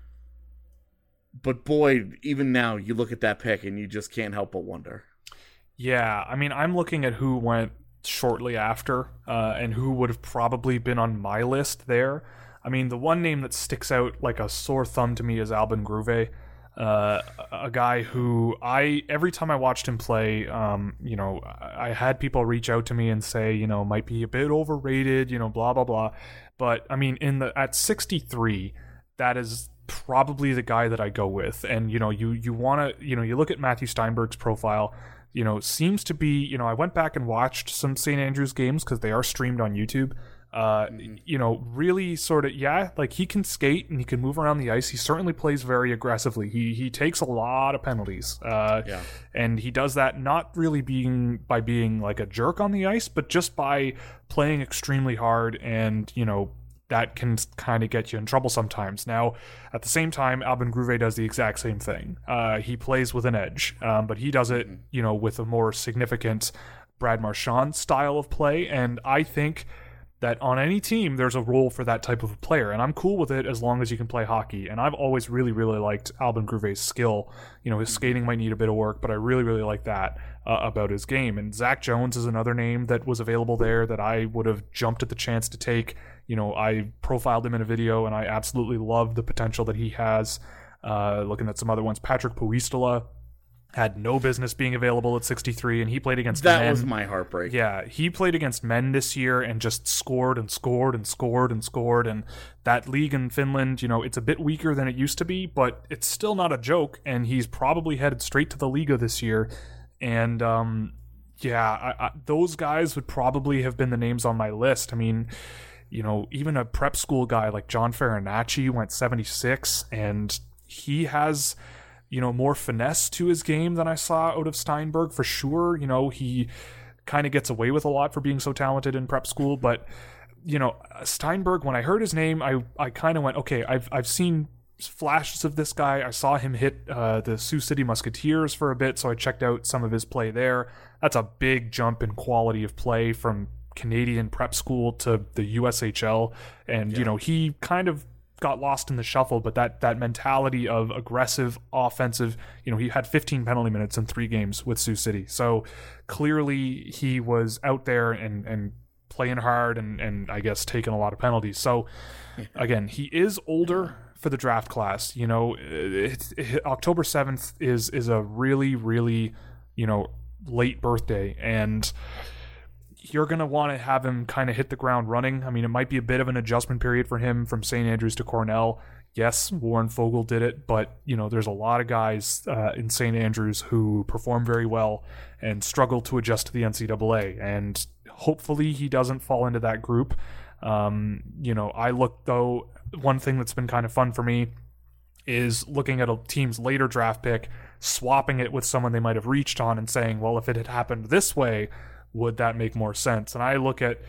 But boy, even now, you look at that pick and you just can't help but wonder. Yeah, I mean, I'm looking at who went shortly after and who would have probably been on my list there. I mean, the one name that sticks out like a sore thumb to me is Albin Gruve, a guy who every time I watched him play, I had people reach out to me and say, might be a bit overrated, blah, blah, blah. But I mean, at 63, that is probably the guy that I go with. And, you want to, you look at Matthew Steinberg's profile, seems to be, I went back and watched some St. Andrews games because they are streamed on YouTube. Really sort of, like he can skate and he can move around the ice. He certainly plays very aggressively. He takes a lot of penalties. And he does that not really by being like a jerk on the ice, but just by playing extremely hard, and, that can kind of get you in trouble sometimes. Now, at the same time, Albin Gruve does the exact same thing. He plays with an edge, but he does it, with a more significant Brad Marchand style of play. And I think that on any team, there's a role for that type of a player. And I'm cool with it as long as you can play hockey. And I've always really, really liked Albin Gruve's skill. His skating might need a bit of work, but I really, really like that about his game. And Zach Jones is another name that was available there that I would have jumped at the chance to take. I profiled him in a video, and I absolutely love the potential that he has. Looking at some other ones, Patrick Puistola had no business being available at 63, and he played against men. That was my heartbreak. Yeah, he played against men this year and just scored and scored and scored and scored. And that league in Finland, it's a bit weaker than it used to be, but it's still not a joke, and he's probably headed straight to the Liga this year. And those guys would probably have been the names on my list. I mean, even a prep school guy like John Farinacci went 76, and he has, more finesse to his game than I saw out of Steinberg for sure. He kind of gets away with a lot for being so talented in prep school, but, Steinberg, when I heard his name, I kind of went, okay, I've seen flashes of this guy. I saw him hit the Sioux City Musketeers for a bit, so I checked out some of his play there. That's a big jump in quality of play from Canadian prep school to the USHL, and he kind of got lost in the shuffle, but that mentality of aggressive offensive, he had 15 penalty minutes in 3 games with Sioux City, so clearly he was out there and playing hard and I guess taking a lot of penalties. So again, he is older for the draft class. October 7th is a really, really late birthday, and you're going to want to have him kind of hit the ground running. I mean, it might be a bit of an adjustment period for him from St. Andrews to Cornell. Yes, Warren Fogle did it, but, there's a lot of guys in St. Andrews who perform very well and struggle to adjust to the NCAA, and hopefully he doesn't fall into that group. I look, though, one thing that's been kind of fun for me is looking at a team's later draft pick, swapping it with someone they might have reached on and saying, well, if it had happened this way, would that make more sense? And I look at,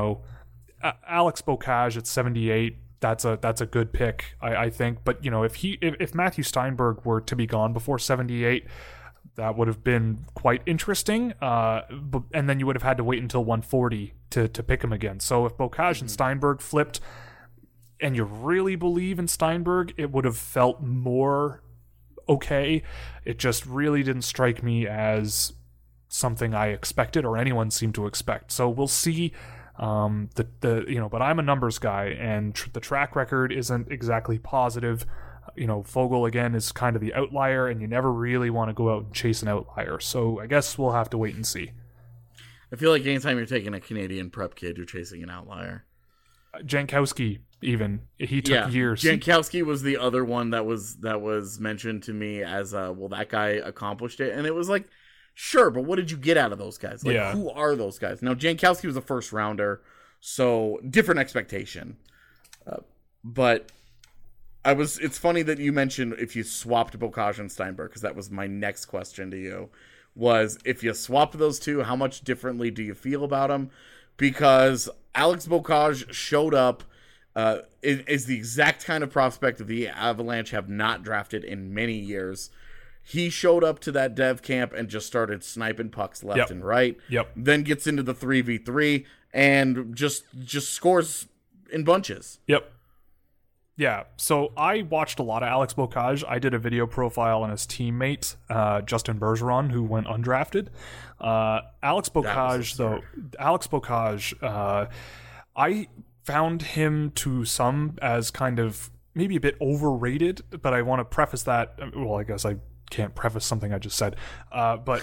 Alex Bocage at 78, that's a good pick, I think. But, if Matthew Steinberg were to be gone before 78, that would have been quite interesting. And then you would have had to wait until 140 to pick him again. So if Bocage and Steinberg flipped, and you really believe in Steinberg, it would have felt more okay. It just really didn't strike me as something I expected or anyone seemed to expect. So we'll see. But I'm a numbers guy, and the track record isn't exactly positive. Fogle again is kind of the outlier, and you never really want to go out and chase an outlier. So I guess we'll have to wait and see. I feel like anytime you're taking a Canadian prep kid, you're chasing an outlier. Jankowski, even he took years. Jankowski was the other one that was mentioned to me as that guy accomplished it, and it was like, sure, but what did you get out of those guys? Who are those guys? Now, Jankowski was a first rounder, so different expectation. But it's funny that you mentioned if you swapped Bocage and Steinberg, because that was my next question to you, was if you swapped those two, how much differently do you feel about them? Because Alex Bocage showed up, is the exact kind of prospect that the Avalanche have not drafted in many years. He showed up to that dev camp and just started sniping pucks left and right. Yep. Then gets into the 3v3 and just scores in bunches. Yep. Yeah, so I watched a lot of Alex Bocage. I did a video profile on his teammate, Justin Bergeron, who went undrafted. Alex Bocage, I found him to some as kind of maybe a bit overrated, but I want to preface that. Well, I guess I can't preface something I just said, but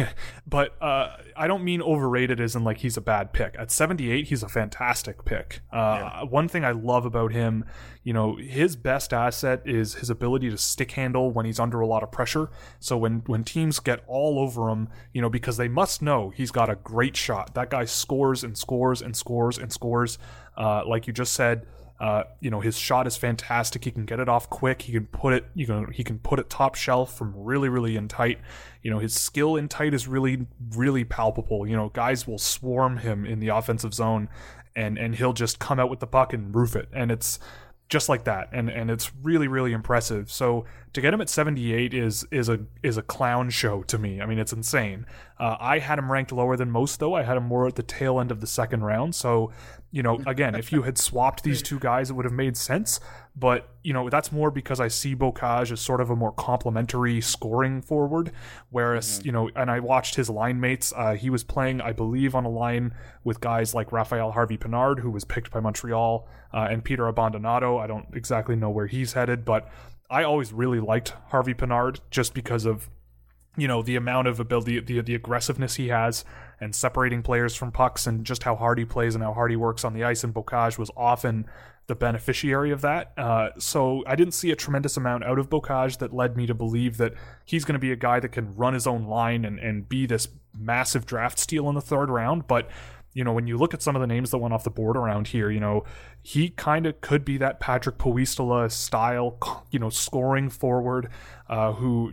I don't mean overrated as in like he's a bad pick. At 78, he's a fantastic pick. One thing I love about him, his best asset is his ability to stick handle when he's under a lot of pressure. So when teams get all over him, because they must know he's got a great shot. That guy scores and scores and scores and scores. Like you just said, his shot is fantastic. He can get it off quick. He can put it top shelf from really, really in tight. His skill in tight is really, really palpable. Guys will swarm him in the offensive zone, and he'll just come out with the puck and roof it. And it's just like that. And it's really, really impressive. So to get him at 78 is a clown show to me. I mean, it's insane. I had him ranked lower than most, though. I had him more at the tail end of the second round. So, again, if you had swapped these two guys, it would have made sense. But, that's more because I see Bocage as sort of a more complementary scoring forward. Whereas, and I watched his line mates. He was playing, I believe, on a line with guys like Raphael Harvey-Pinard, who was picked by Montreal, and Peter Abbandonato. I don't exactly know where he's headed, but I always really liked Harvey-Pinard just because of the amount of ability, the aggressiveness he has, and separating players from pucks, and just how hard he plays and how hard he works on the ice. And Bocage was often the beneficiary of that. So I didn't see a tremendous amount out of Bocage that led me to believe that he's going to be a guy that can run his own line and be this massive draft steal in the third round. But when you look at some of the names that went off the board around here, he kind of could be that Patrick Puistila style, scoring forward, who,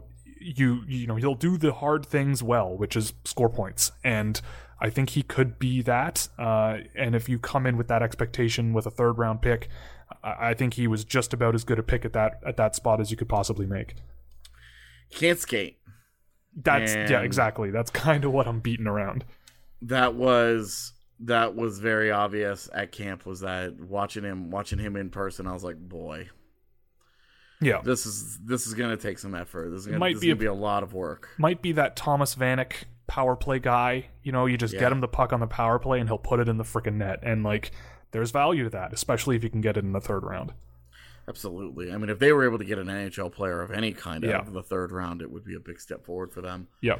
he'll do the hard things well, which is score points. And I think he could be that. And if you come in with that expectation with a third round pick, I think he was just about as good a pick at that spot as you could possibly make. He can't skate. Yeah, exactly. That's kind of what I'm beating around. That was very obvious at camp. Was that watching him in person? I was like, boy, yeah, this is gonna take some effort. This is gonna be a lot of work. Might be that Thomas Vanek power play guy. You just get him the puck on the power play and he'll put it in the freaking net. And there's value to that, especially if you can get it in the third round. Absolutely. I mean, if they were able to get an NHL player of any kind out of the third round, it would be a big step forward for them. Yeah.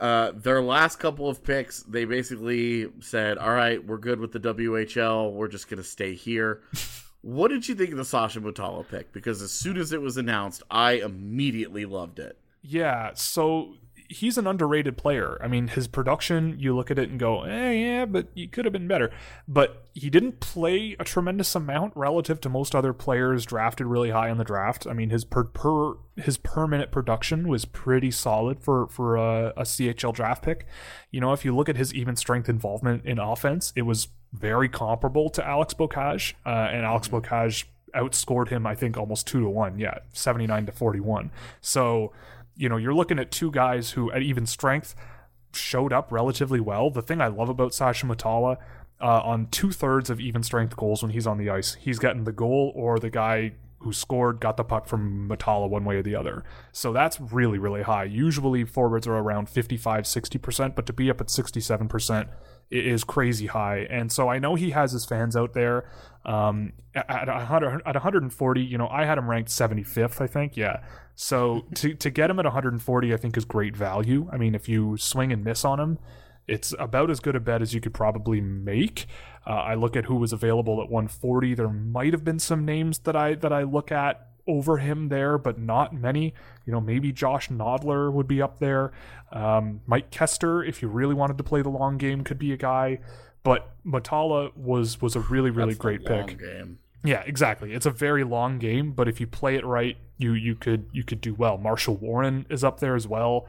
Their last couple of picks, they basically said, all right, we're good with the WHL. We're just going to stay here. What did you think of the Sasha Mutala pick? Because as soon as it was announced, I immediately loved it. Yeah, so he's an underrated player. I mean, his production, you look at it and go, yeah, but he could have been better. But he didn't play a tremendous amount relative to most other players drafted really high in the draft. I mean, his per minute production was pretty solid for a CHL draft pick. You know, if you look at his even strength involvement in offense, it was very comparable to Alex Bocage, and Alex Bocage outscored him, I think, almost 2-1. Yeah, 79-41. So, you know, you're looking at two guys who at even strength showed up relatively well. The thing I love about Sasha Mutala, on 2/3 of even strength goals when he's on the ice, he's getting the goal or the guy who scored got the puck from Mutala one way or the other. So that's really, really high. Usually forwards are around 55-60%, but to be up at 67% is crazy high. And so I know he has his fans out there. At 140, you know, I had him ranked 75th, I think. Yeah. So to get him at 140, I think is great value. I mean, if you swing and miss on him, it's about as good a bet as you could probably make. I look at who was available at 140. There might have been some names that I look at over him there, but not many. You know, maybe Josh Nodler would be up there. Mike Kester, if you really wanted to play the long game, could be a guy. But Mutala was a really, really great pick. Game. Yeah, exactly. It's a very long game, but if you play it right, you could do well. Marshall Warren is up there as well.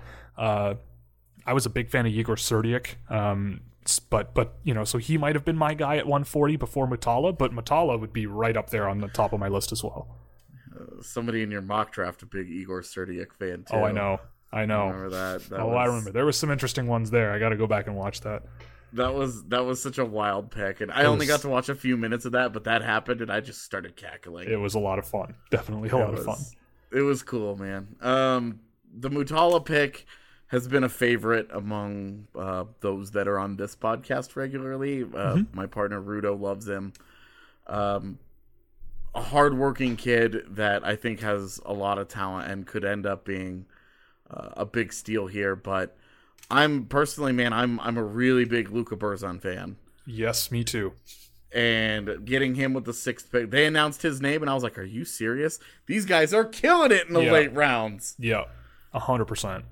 I was a big fan of Igor Serdiak, but you know, so he might have been my guy at 140 before Mutala, but Mutala would be right up there on the top of my list as well. Somebody in your mock draft, a big Igor Serdiak fan too. Oh, I know. I remember that. I remember. There was some interesting ones there. I got to go back and watch that. That was such a wild pick, and I only got to watch a few minutes of that, but that happened, and I just started cackling. It was a lot of fun. Definitely a lot of fun. It was cool, man. The Mutala pick has been a favorite among those that are on this podcast regularly. My partner Rudo loves him. A hardworking kid that I think has a lot of talent and could end up being a big steal here, but I'm personally, man, I'm a really big Luka Berzon fan. Yes, me too. And getting him with the 6th pick, they announced his name, and I was like, "Are you serious? These guys are killing it in the late rounds." Yeah, 100%.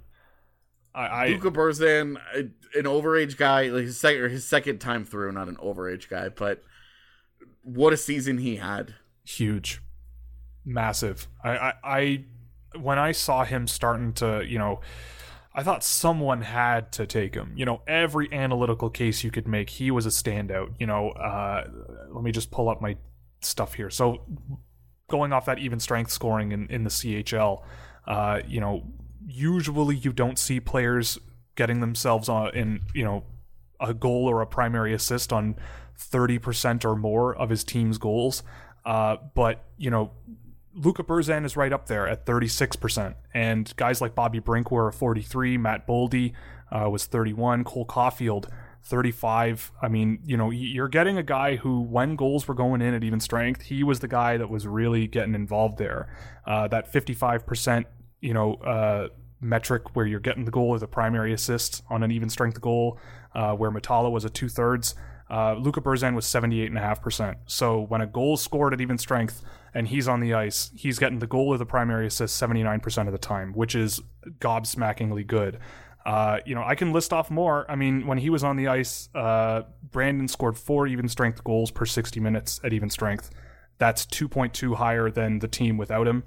Luka Berzon, an overage guy, like his second time through, not an overage guy, but what a season he had! Huge, massive. I when I saw him starting to, you know, I thought someone had to take him. You know, every analytical case you could make, he was a standout. You know, let me just pull up my stuff here. So, going off that even strength scoring in the CHL, you know, usually you don't see players getting themselves in, you know, a goal or a primary assist on 30% or more of his team's goals. But, you know, Luka Berzon is right up there at 36%. And guys like Bobby Brink were 43, Matt Boldy was 31, Cole Caulfield 35. I mean, you know, you're getting a guy who, when goals were going in at even strength, he was the guy that was really getting involved there. That 55%, you know, metric where you're getting the goal or the primary assist on an even strength goal, where Mutala was at 2/3. Luka Berzon was 78.5%. So when a goal is scored at even strength and he's on the ice, he's getting the goal or the primary assist 79% of the time, which is gobsmackingly good. You know, I can list off more. I mean, when he was on the ice, Brandon scored 4 even strength goals per 60 minutes at even strength. That's 2.2 higher than the team without him,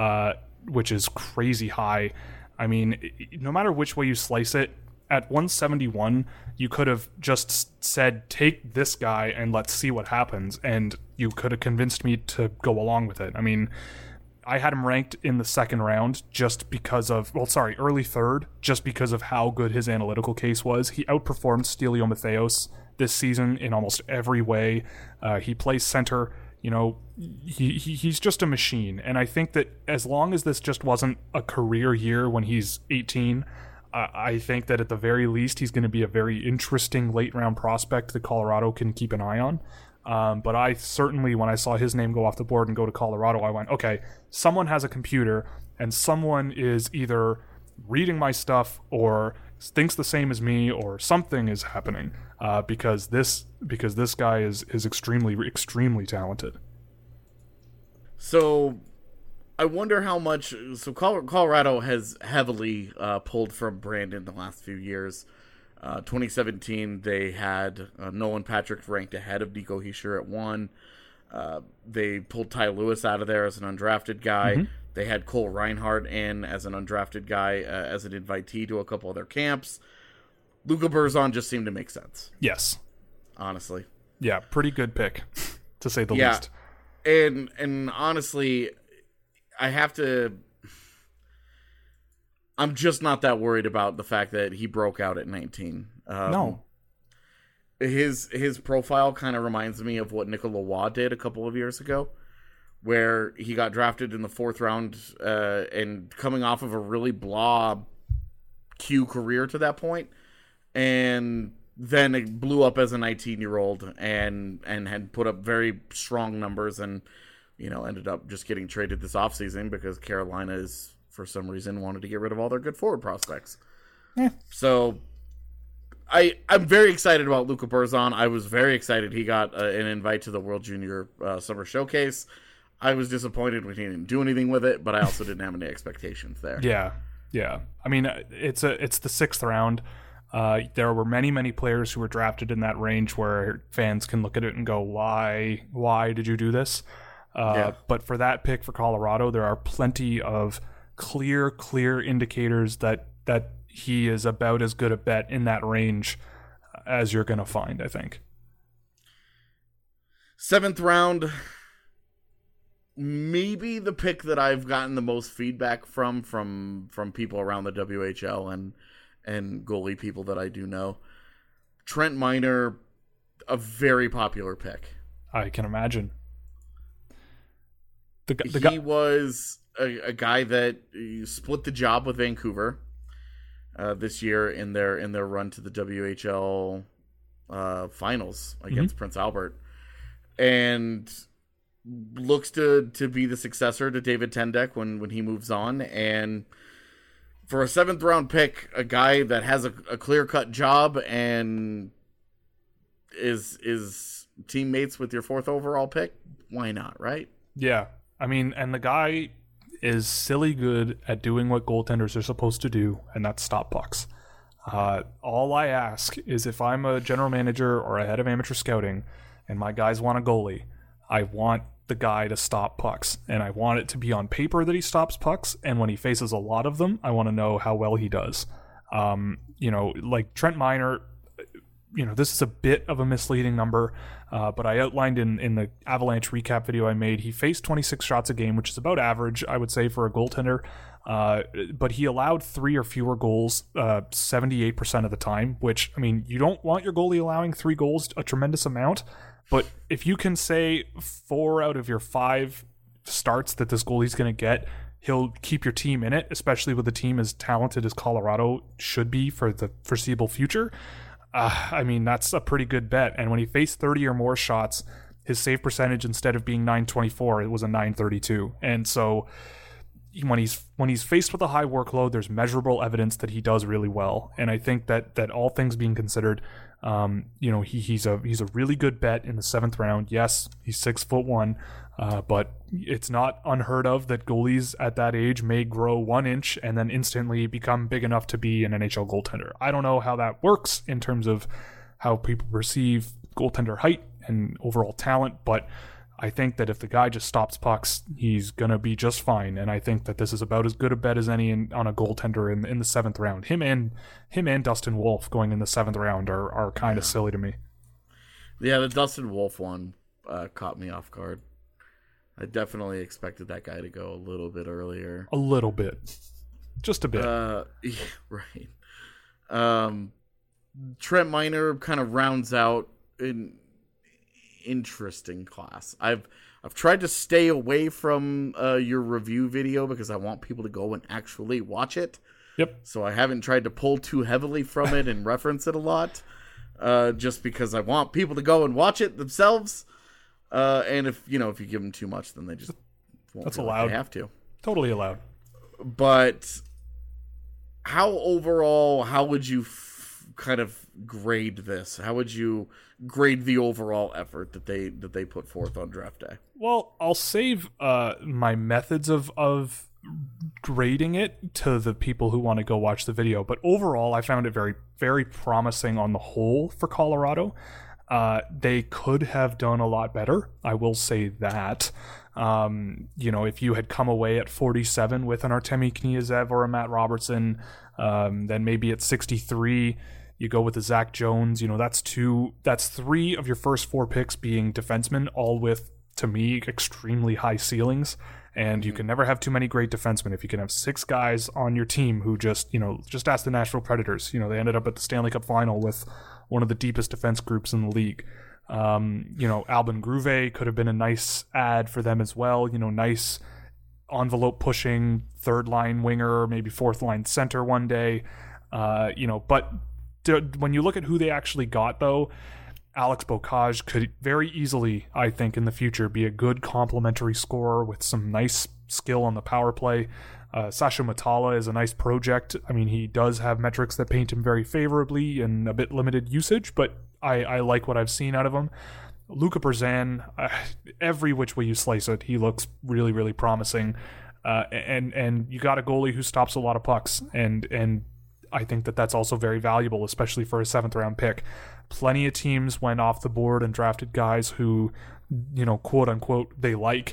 which is crazy high. I mean, no matter which way you slice it, at 171, you could have just said, take this guy and let's see what happens. And you could have convinced me to go along with it. I mean, I had him ranked in the second round just because of, early third, just because of how good his analytical case was. He outperformed Stelio Matheos this season in almost every way. He plays center. You know, he's just a machine. And I think that as long as this just wasn't a career year when he's 18, I think that at the very least he's going to be a very interesting late round prospect that Colorado can keep an eye on. But I certainly, when I saw his name go off the board and go to Colorado, I went, okay, someone has a computer and someone is either reading my stuff or thinks the same as me, or something is happening, because this guy is extremely talented. So I wonder how much. So Colorado has heavily pulled from Brandon the last few years. 2017, they had Nolan Patrick ranked ahead of Nico Hischier at 1. They pulled Ty Lewis out of there as an undrafted guy. Mm-hmm. They had Cole Reinhardt in as an undrafted guy, as an invitee to a couple of their camps. Luka Berzon just seemed to make sense. Yes. Honestly. Yeah, pretty good pick, to say the least. And honestly, I'm just not that worried about the fact that he broke out at 19. No. His profile kind of reminds me of what Nicolas Roy did a couple of years ago, where he got drafted in the 4th round and coming off of a really blah Q career to that point, and then it blew up as a 19-year-old and had put up very strong numbers, and ended up just getting traded this offseason because Carolina is, for some reason, wanted to get rid of all their good forward prospects. Yeah. So I'm very excited about Luka Berzon. I was very excited he got an invite to the World Junior Summer Showcase. I was disappointed when he didn't do anything with it, but I also didn't have any expectations there. Yeah. I mean, it's the 6th round. There were many players who were drafted in that range where fans can look at it and go, why did you do this? But for that pick for Colorado, there are plenty of clear indicators that he is about as good a bet in that range as you're going to find, I think. 7th round, maybe the pick that I've gotten the most feedback from people around the WHL and goalie people that I do know. Trent Miner, a very popular pick. I can imagine. He was a guy that split the job with Vancouver this year in their run to the WHL finals against Prince Albert, and looks to be the successor to David Tendek when he moves on. And for a 7th round pick, a guy that has a clear-cut job and is teammates with your 4th overall pick, why not, right? Yeah. I mean, and the guy is silly good at doing what goaltenders are supposed to do, and that's stop pucks. All I ask is, if I'm a general manager or a head of amateur scouting and my guys want a goalie, I want the guy to stop pucks, and I want it to be on paper that he stops pucks, and when he faces a lot of them, I want to know how well he does. Like Trent Miner, this is a bit of a misleading number, but I outlined in the Avalanche recap video I made, he faced 26 shots a game, which is about average, I would say, for a goaltender. But he allowed 3 or fewer goals 78% of the time, which, I mean, you don't want your goalie allowing 3 goals a tremendous amount, but if you can say 4 out of your 5 starts that this goalie's going to get, he'll keep your team in it, especially with a team as talented as Colorado should be for the foreseeable future. I mean, that's a pretty good bet. And when he faced 30 or more shots, his save percentage, instead of being .924, it was a .932. And so when he's faced with a high workload, there's measurable evidence that he does really well. And I think that all things being considered, he's a really good bet in the 7th round. Yes, he's 6'1", but it's not unheard of that goalies at that age may grow 1 inch and then instantly become big enough to be an NHL goaltender. I don't know how that works in terms of how people perceive goaltender height and overall talent, but I think that if the guy just stops pucks, he's going to be just fine. And I think that this is about as good a bet as any on a goaltender in the 7th round. Him and Dustin Wolf going in the 7th round are kind of silly to me. Yeah, the Dustin Wolf one caught me off guard. I definitely expected that guy to go a little bit earlier. A little bit. Just a bit. Yeah, right. Trent Miner kind of rounds out an interesting class. I've tried to stay away from your review video because I want people to go and actually watch it. Yep. So I haven't tried to pull too heavily from it and reference it a lot, just because I want people to go and watch it themselves. And if you give them too much, then they just won't. That's allowed. They have to. Totally allowed. But how overall, how would you kind of grade this? How would you grade the overall effort that they put forth on draft day? Well, I'll save my methods of grading it to the people who want to go watch the video. But overall, I found it very, very promising on the whole for Colorado. They could have done a lot better. I will say that. If you had come away at 47 with an Artemi Kniazev or a Matt Robertson, then maybe at 63, you go with the Zach Jones. That's 3 of your first 4 picks being defensemen, all with, to me, extremely high ceilings. And you can never have too many great defensemen. If you can have 6 guys on your team who just ask the Nashville Predators. They ended up at the Stanley Cup final with one of the deepest defense groups in the league. Albin Gruve could have been a nice ad for them as well. Nice envelope pushing 3rd line winger, maybe 4th line center one day. But when you look at who they actually got, though, Alex Bocage could very easily, I think, in the future be a good complementary scorer with some nice skill on the power play. Sasha Matala is a nice project. I mean, he does have metrics that paint him very favorably and a bit limited usage, but I like what I've seen out of him. Luca Berzan, every which way you slice it, he looks really, really promising. And you got a goalie who stops a lot of pucks, and I think that's also very valuable, especially for a 7th round pick. Plenty of teams went off the board and drafted guys who, quote unquote, they like,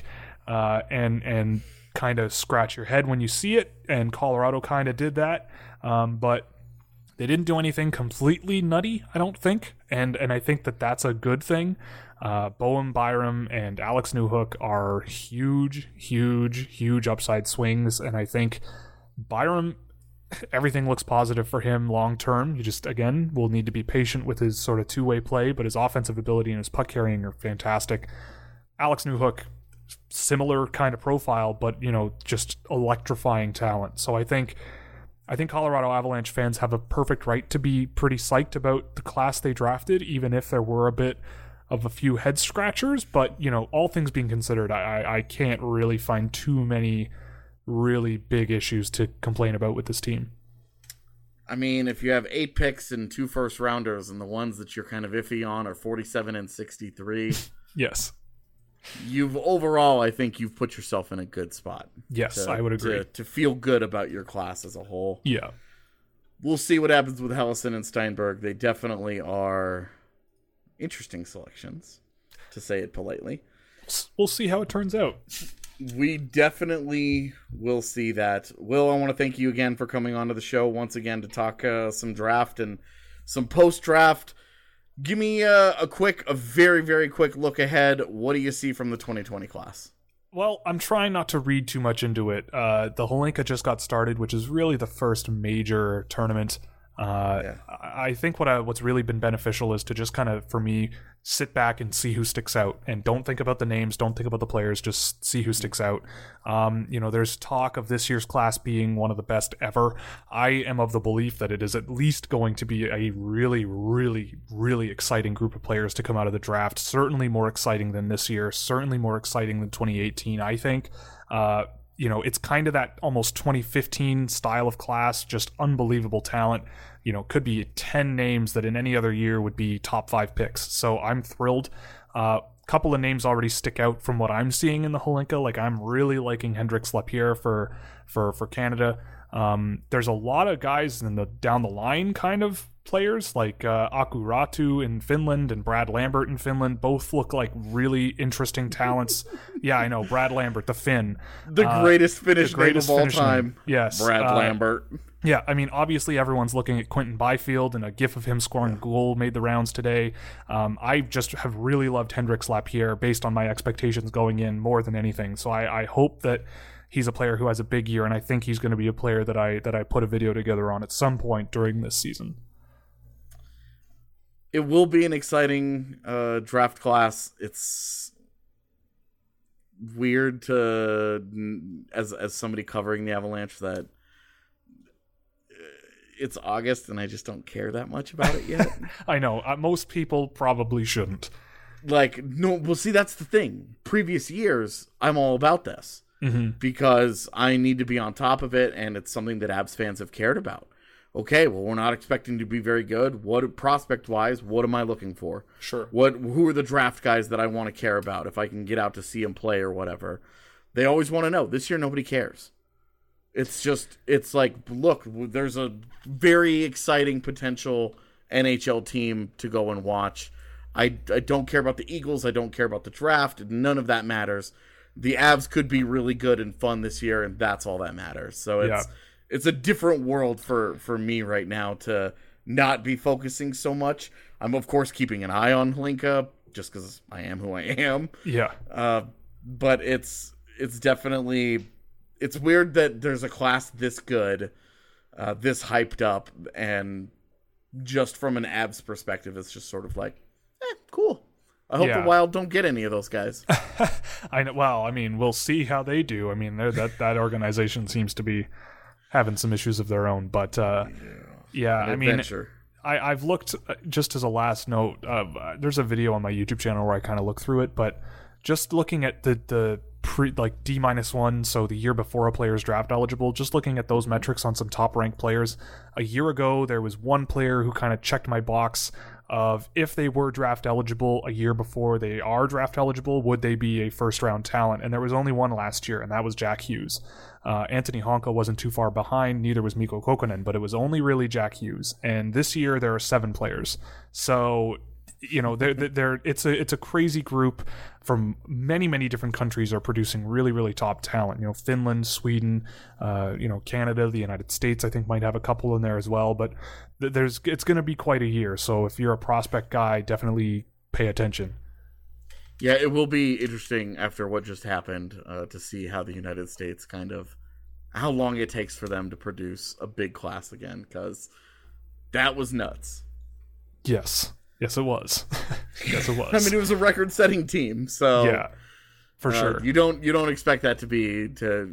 and kind of scratch your head when you see it. And Colorado kind of did that, but they didn't do anything completely nutty, I don't think, and I think that's a good thing. Bowen Byram and Alex Newhook are huge, huge, huge upside swings, and I think Byram, everything looks positive for him long term. You just, again, will need to be patient with his sort of two-way play, but his offensive ability and his puck carrying are fantastic. Alex Newhook, similar kind of profile, but just electrifying talent. So I think Colorado Avalanche fans have a perfect right to be pretty psyched about the class they drafted, even if there were a bit of a few head scratchers. But all things being considered, I can't really find too many really big issues to complain about with this team. I mean, if you have 8 picks and 2 first rounders, and the ones that you're kind of iffy on are 47 and 63, yes, I think you've put yourself in a good spot. Yes, I would agree. To feel good about your class as a whole. Yeah. We'll see what happens with Helleson and Steinberg. They definitely are interesting selections, to say it politely. We'll see how it turns out. We definitely will see that. Will, I want to thank you again for coming onto the show once again to talk some draft and some post-draft. Give me a very, very quick look ahead. What do you see from the 2020 class? Well, I'm trying not to read too much into it. The Hlinka just got started, which is really the first major tournament. I think what's really been beneficial is to just kind of, for me, sit back and see who sticks out, and don't think about the names, don't think about the players, just see who sticks out. There's talk of this year's class being one of the best ever. I am of the belief that it is at least going to be a really, really, really exciting group of players to come out of the draft. Certainly more exciting than this year, certainly more exciting than 2018, I think. It's kind of that almost 2015 style of class, just unbelievable talent. Could be 10 names that in any other year would be top 5 picks. So I'm thrilled. Couple of names already stick out from what I'm seeing in the Hlinka. Like, I'm really liking Hendrix Lapierre for Canada. There's a lot of guys in the down the line kind of players like Aku Ratu in Finland and Brad Lambert in Finland. Both look like really interesting talents. Yeah, I know, Brad Lambert, the Finn, the greatest Finnish name of all time. Yes, Brad Lambert. Yeah, I mean, obviously everyone's looking at Quentin Byfield, and a gif of him scoring a goal made the rounds today. I just have really loved Hendrix Lapierre based on my expectations going in more than anything. So I hope that he's a player who has a big year, and I think he's going to be a player that I put a video together on at some point during this season. It will be an exciting draft class. It's weird to, as somebody covering the Avalanche, that it's August and I just don't care that much about it yet. I know. Most people probably shouldn't. See, that's the thing. Previous years, I'm all about this because I need to be on top of it, and it's something that Abs fans have cared about. okay, well, we're not expecting to be very good. What prospect-wise, what am I looking for? Sure. Who are the draft guys that I want to care about if I can get out to see them play or whatever? They always want to know. This year, nobody cares. It's like, look, there's a very exciting potential NHL team to go and watch. I don't care about the Eagles. I don't care about the draft. None of that matters. The Avs could be really good and fun this year, and that's all that matters. So it's a different world for me right now to not be focusing so much. I'm, of course, keeping an eye on Hlinka just because I am who I am. Yeah. But it's definitely... It's weird that there's a class this good, this hyped up, and just from an Avs perspective, it's just sort of like, cool. I hope the Wild don't get any of those guys. I know. Well, I mean, we'll see how they do. I mean, that organization seems to be having some issues of their own. But I mean, I've looked, just as a last note, there's a video on my YouTube channel where I kind of look through it, but just looking at the D-1, so the year before a player's draft eligible, just looking at those metrics on some top-ranked players. A year ago, there was one player who kind of checked my box of if they were draft eligible a year before they are draft eligible, would they be a first-round talent? And there was only one last year, and that was Jack Hughes. Anthony Honka wasn't too far behind, neither was Mikko Kokkonen, but it was only really Jack Hughes. And this year, there are 7 players. So... You know, it's a crazy group from many, many different countries are producing really, really top talent. You know, Finland, Sweden, Canada, the United States, I think might have a couple in there as well. But it's going to be quite a year. So if you're a prospect guy, definitely pay attention. Yeah, it will be interesting after what just happened to see how the United States how long it takes for them to produce a big class again, because that was nuts. Yes, it was. Yes, it was. I mean, it was a record-setting team, so yeah, for sure. You don't expect that to be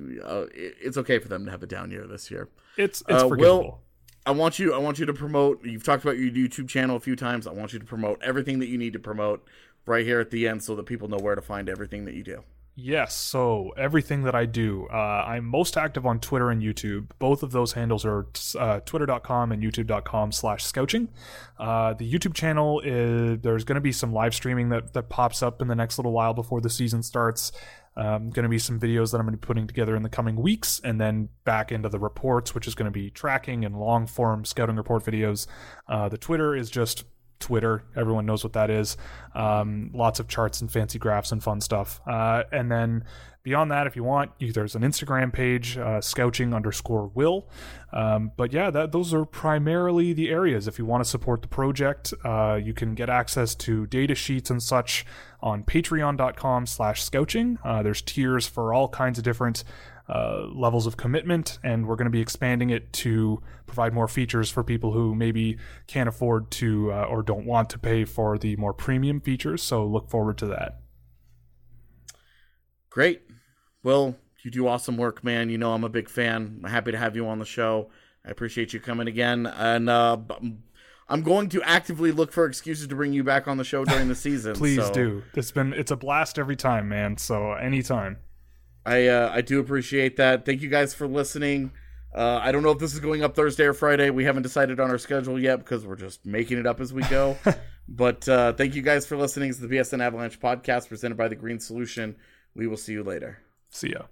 it's okay for them to have a down year this year. It's forgivable. Will, I want you to promote. You've talked about your YouTube channel a few times. I want you to promote everything that you need to promote right here at the end, so that people know where to find everything that you do. Yes, so everything that I do. I'm most active on Twitter and YouTube. Both of those handles are twitter.com and youtube.com/scouching. The YouTube channel, there's going to be some live streaming that pops up in the next little while before the season starts. Going to be some videos that I'm going to be putting together in the coming weeks, and then back into the reports, which is going to be tracking and long-form scouting report videos. The Twitter is just Twitter. Everyone knows what that is. Lots of charts and fancy graphs and fun stuff. And then beyond that, if you want, there's an Instagram page, scouching_will. But yeah, those are primarily the areas. If you want to support the project, you can get access to data sheets and such on patreon.com/scouching. There's tiers for all kinds of different levels of commitment, and we're going to be expanding it to provide more features for people who maybe can't afford to or don't want to pay for the more premium features. So look forward to that. Great. Well, you do awesome work, man. You know I'm a big fan. I'm happy to have you on the show. I appreciate you coming again, and I'm going to actively look for excuses to bring you back on the show during the season. Please do. It's a blast every time, man. So anytime. I do appreciate that. Thank you guys for listening. I don't know if this is going up Thursday or Friday. We haven't decided on our schedule yet because we're just making it up as we go. But thank you guys for listening to the BSN Avalanche podcast presented by The Green Solution. We will see you later. See ya.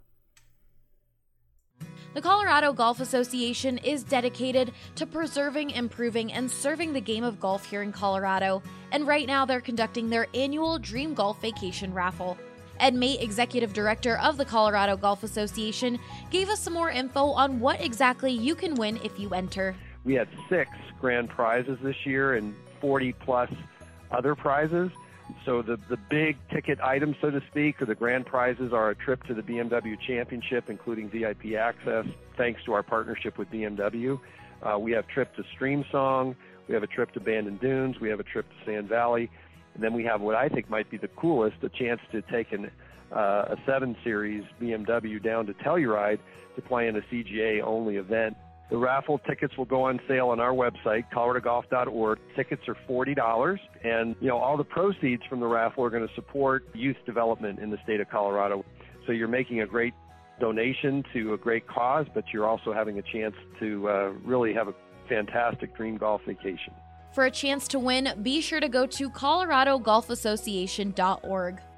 The Colorado Golf Association is dedicated to preserving, improving, and serving the game of golf here in Colorado. And right now they're conducting their annual Dream Golf Vacation Raffle. Ed Mate, Executive Director of the Colorado Golf Association, gave us some more info on what exactly you can win if you enter. We had 6 grand prizes this year and 40-plus other prizes. So the big ticket items, so to speak, or the grand prizes are a trip to the BMW Championship, including VIP access, thanks to our partnership with BMW. We have a trip to Streamsong. We have a trip to Bandon Dunes. We have a trip to Sand Valley. And then we have what I think might be the coolest, a chance to take a 7 Series BMW down to Telluride to play in a CGA-only event. The raffle tickets will go on sale on our website, coloradogolf.org. Tickets are $40, and all the proceeds from the raffle are going to support youth development in the state of Colorado. So you're making a great donation to a great cause, but you're also having a chance to really have a fantastic dream golf vacation. For a chance to win, be sure to go to coloradogolfassociation.org.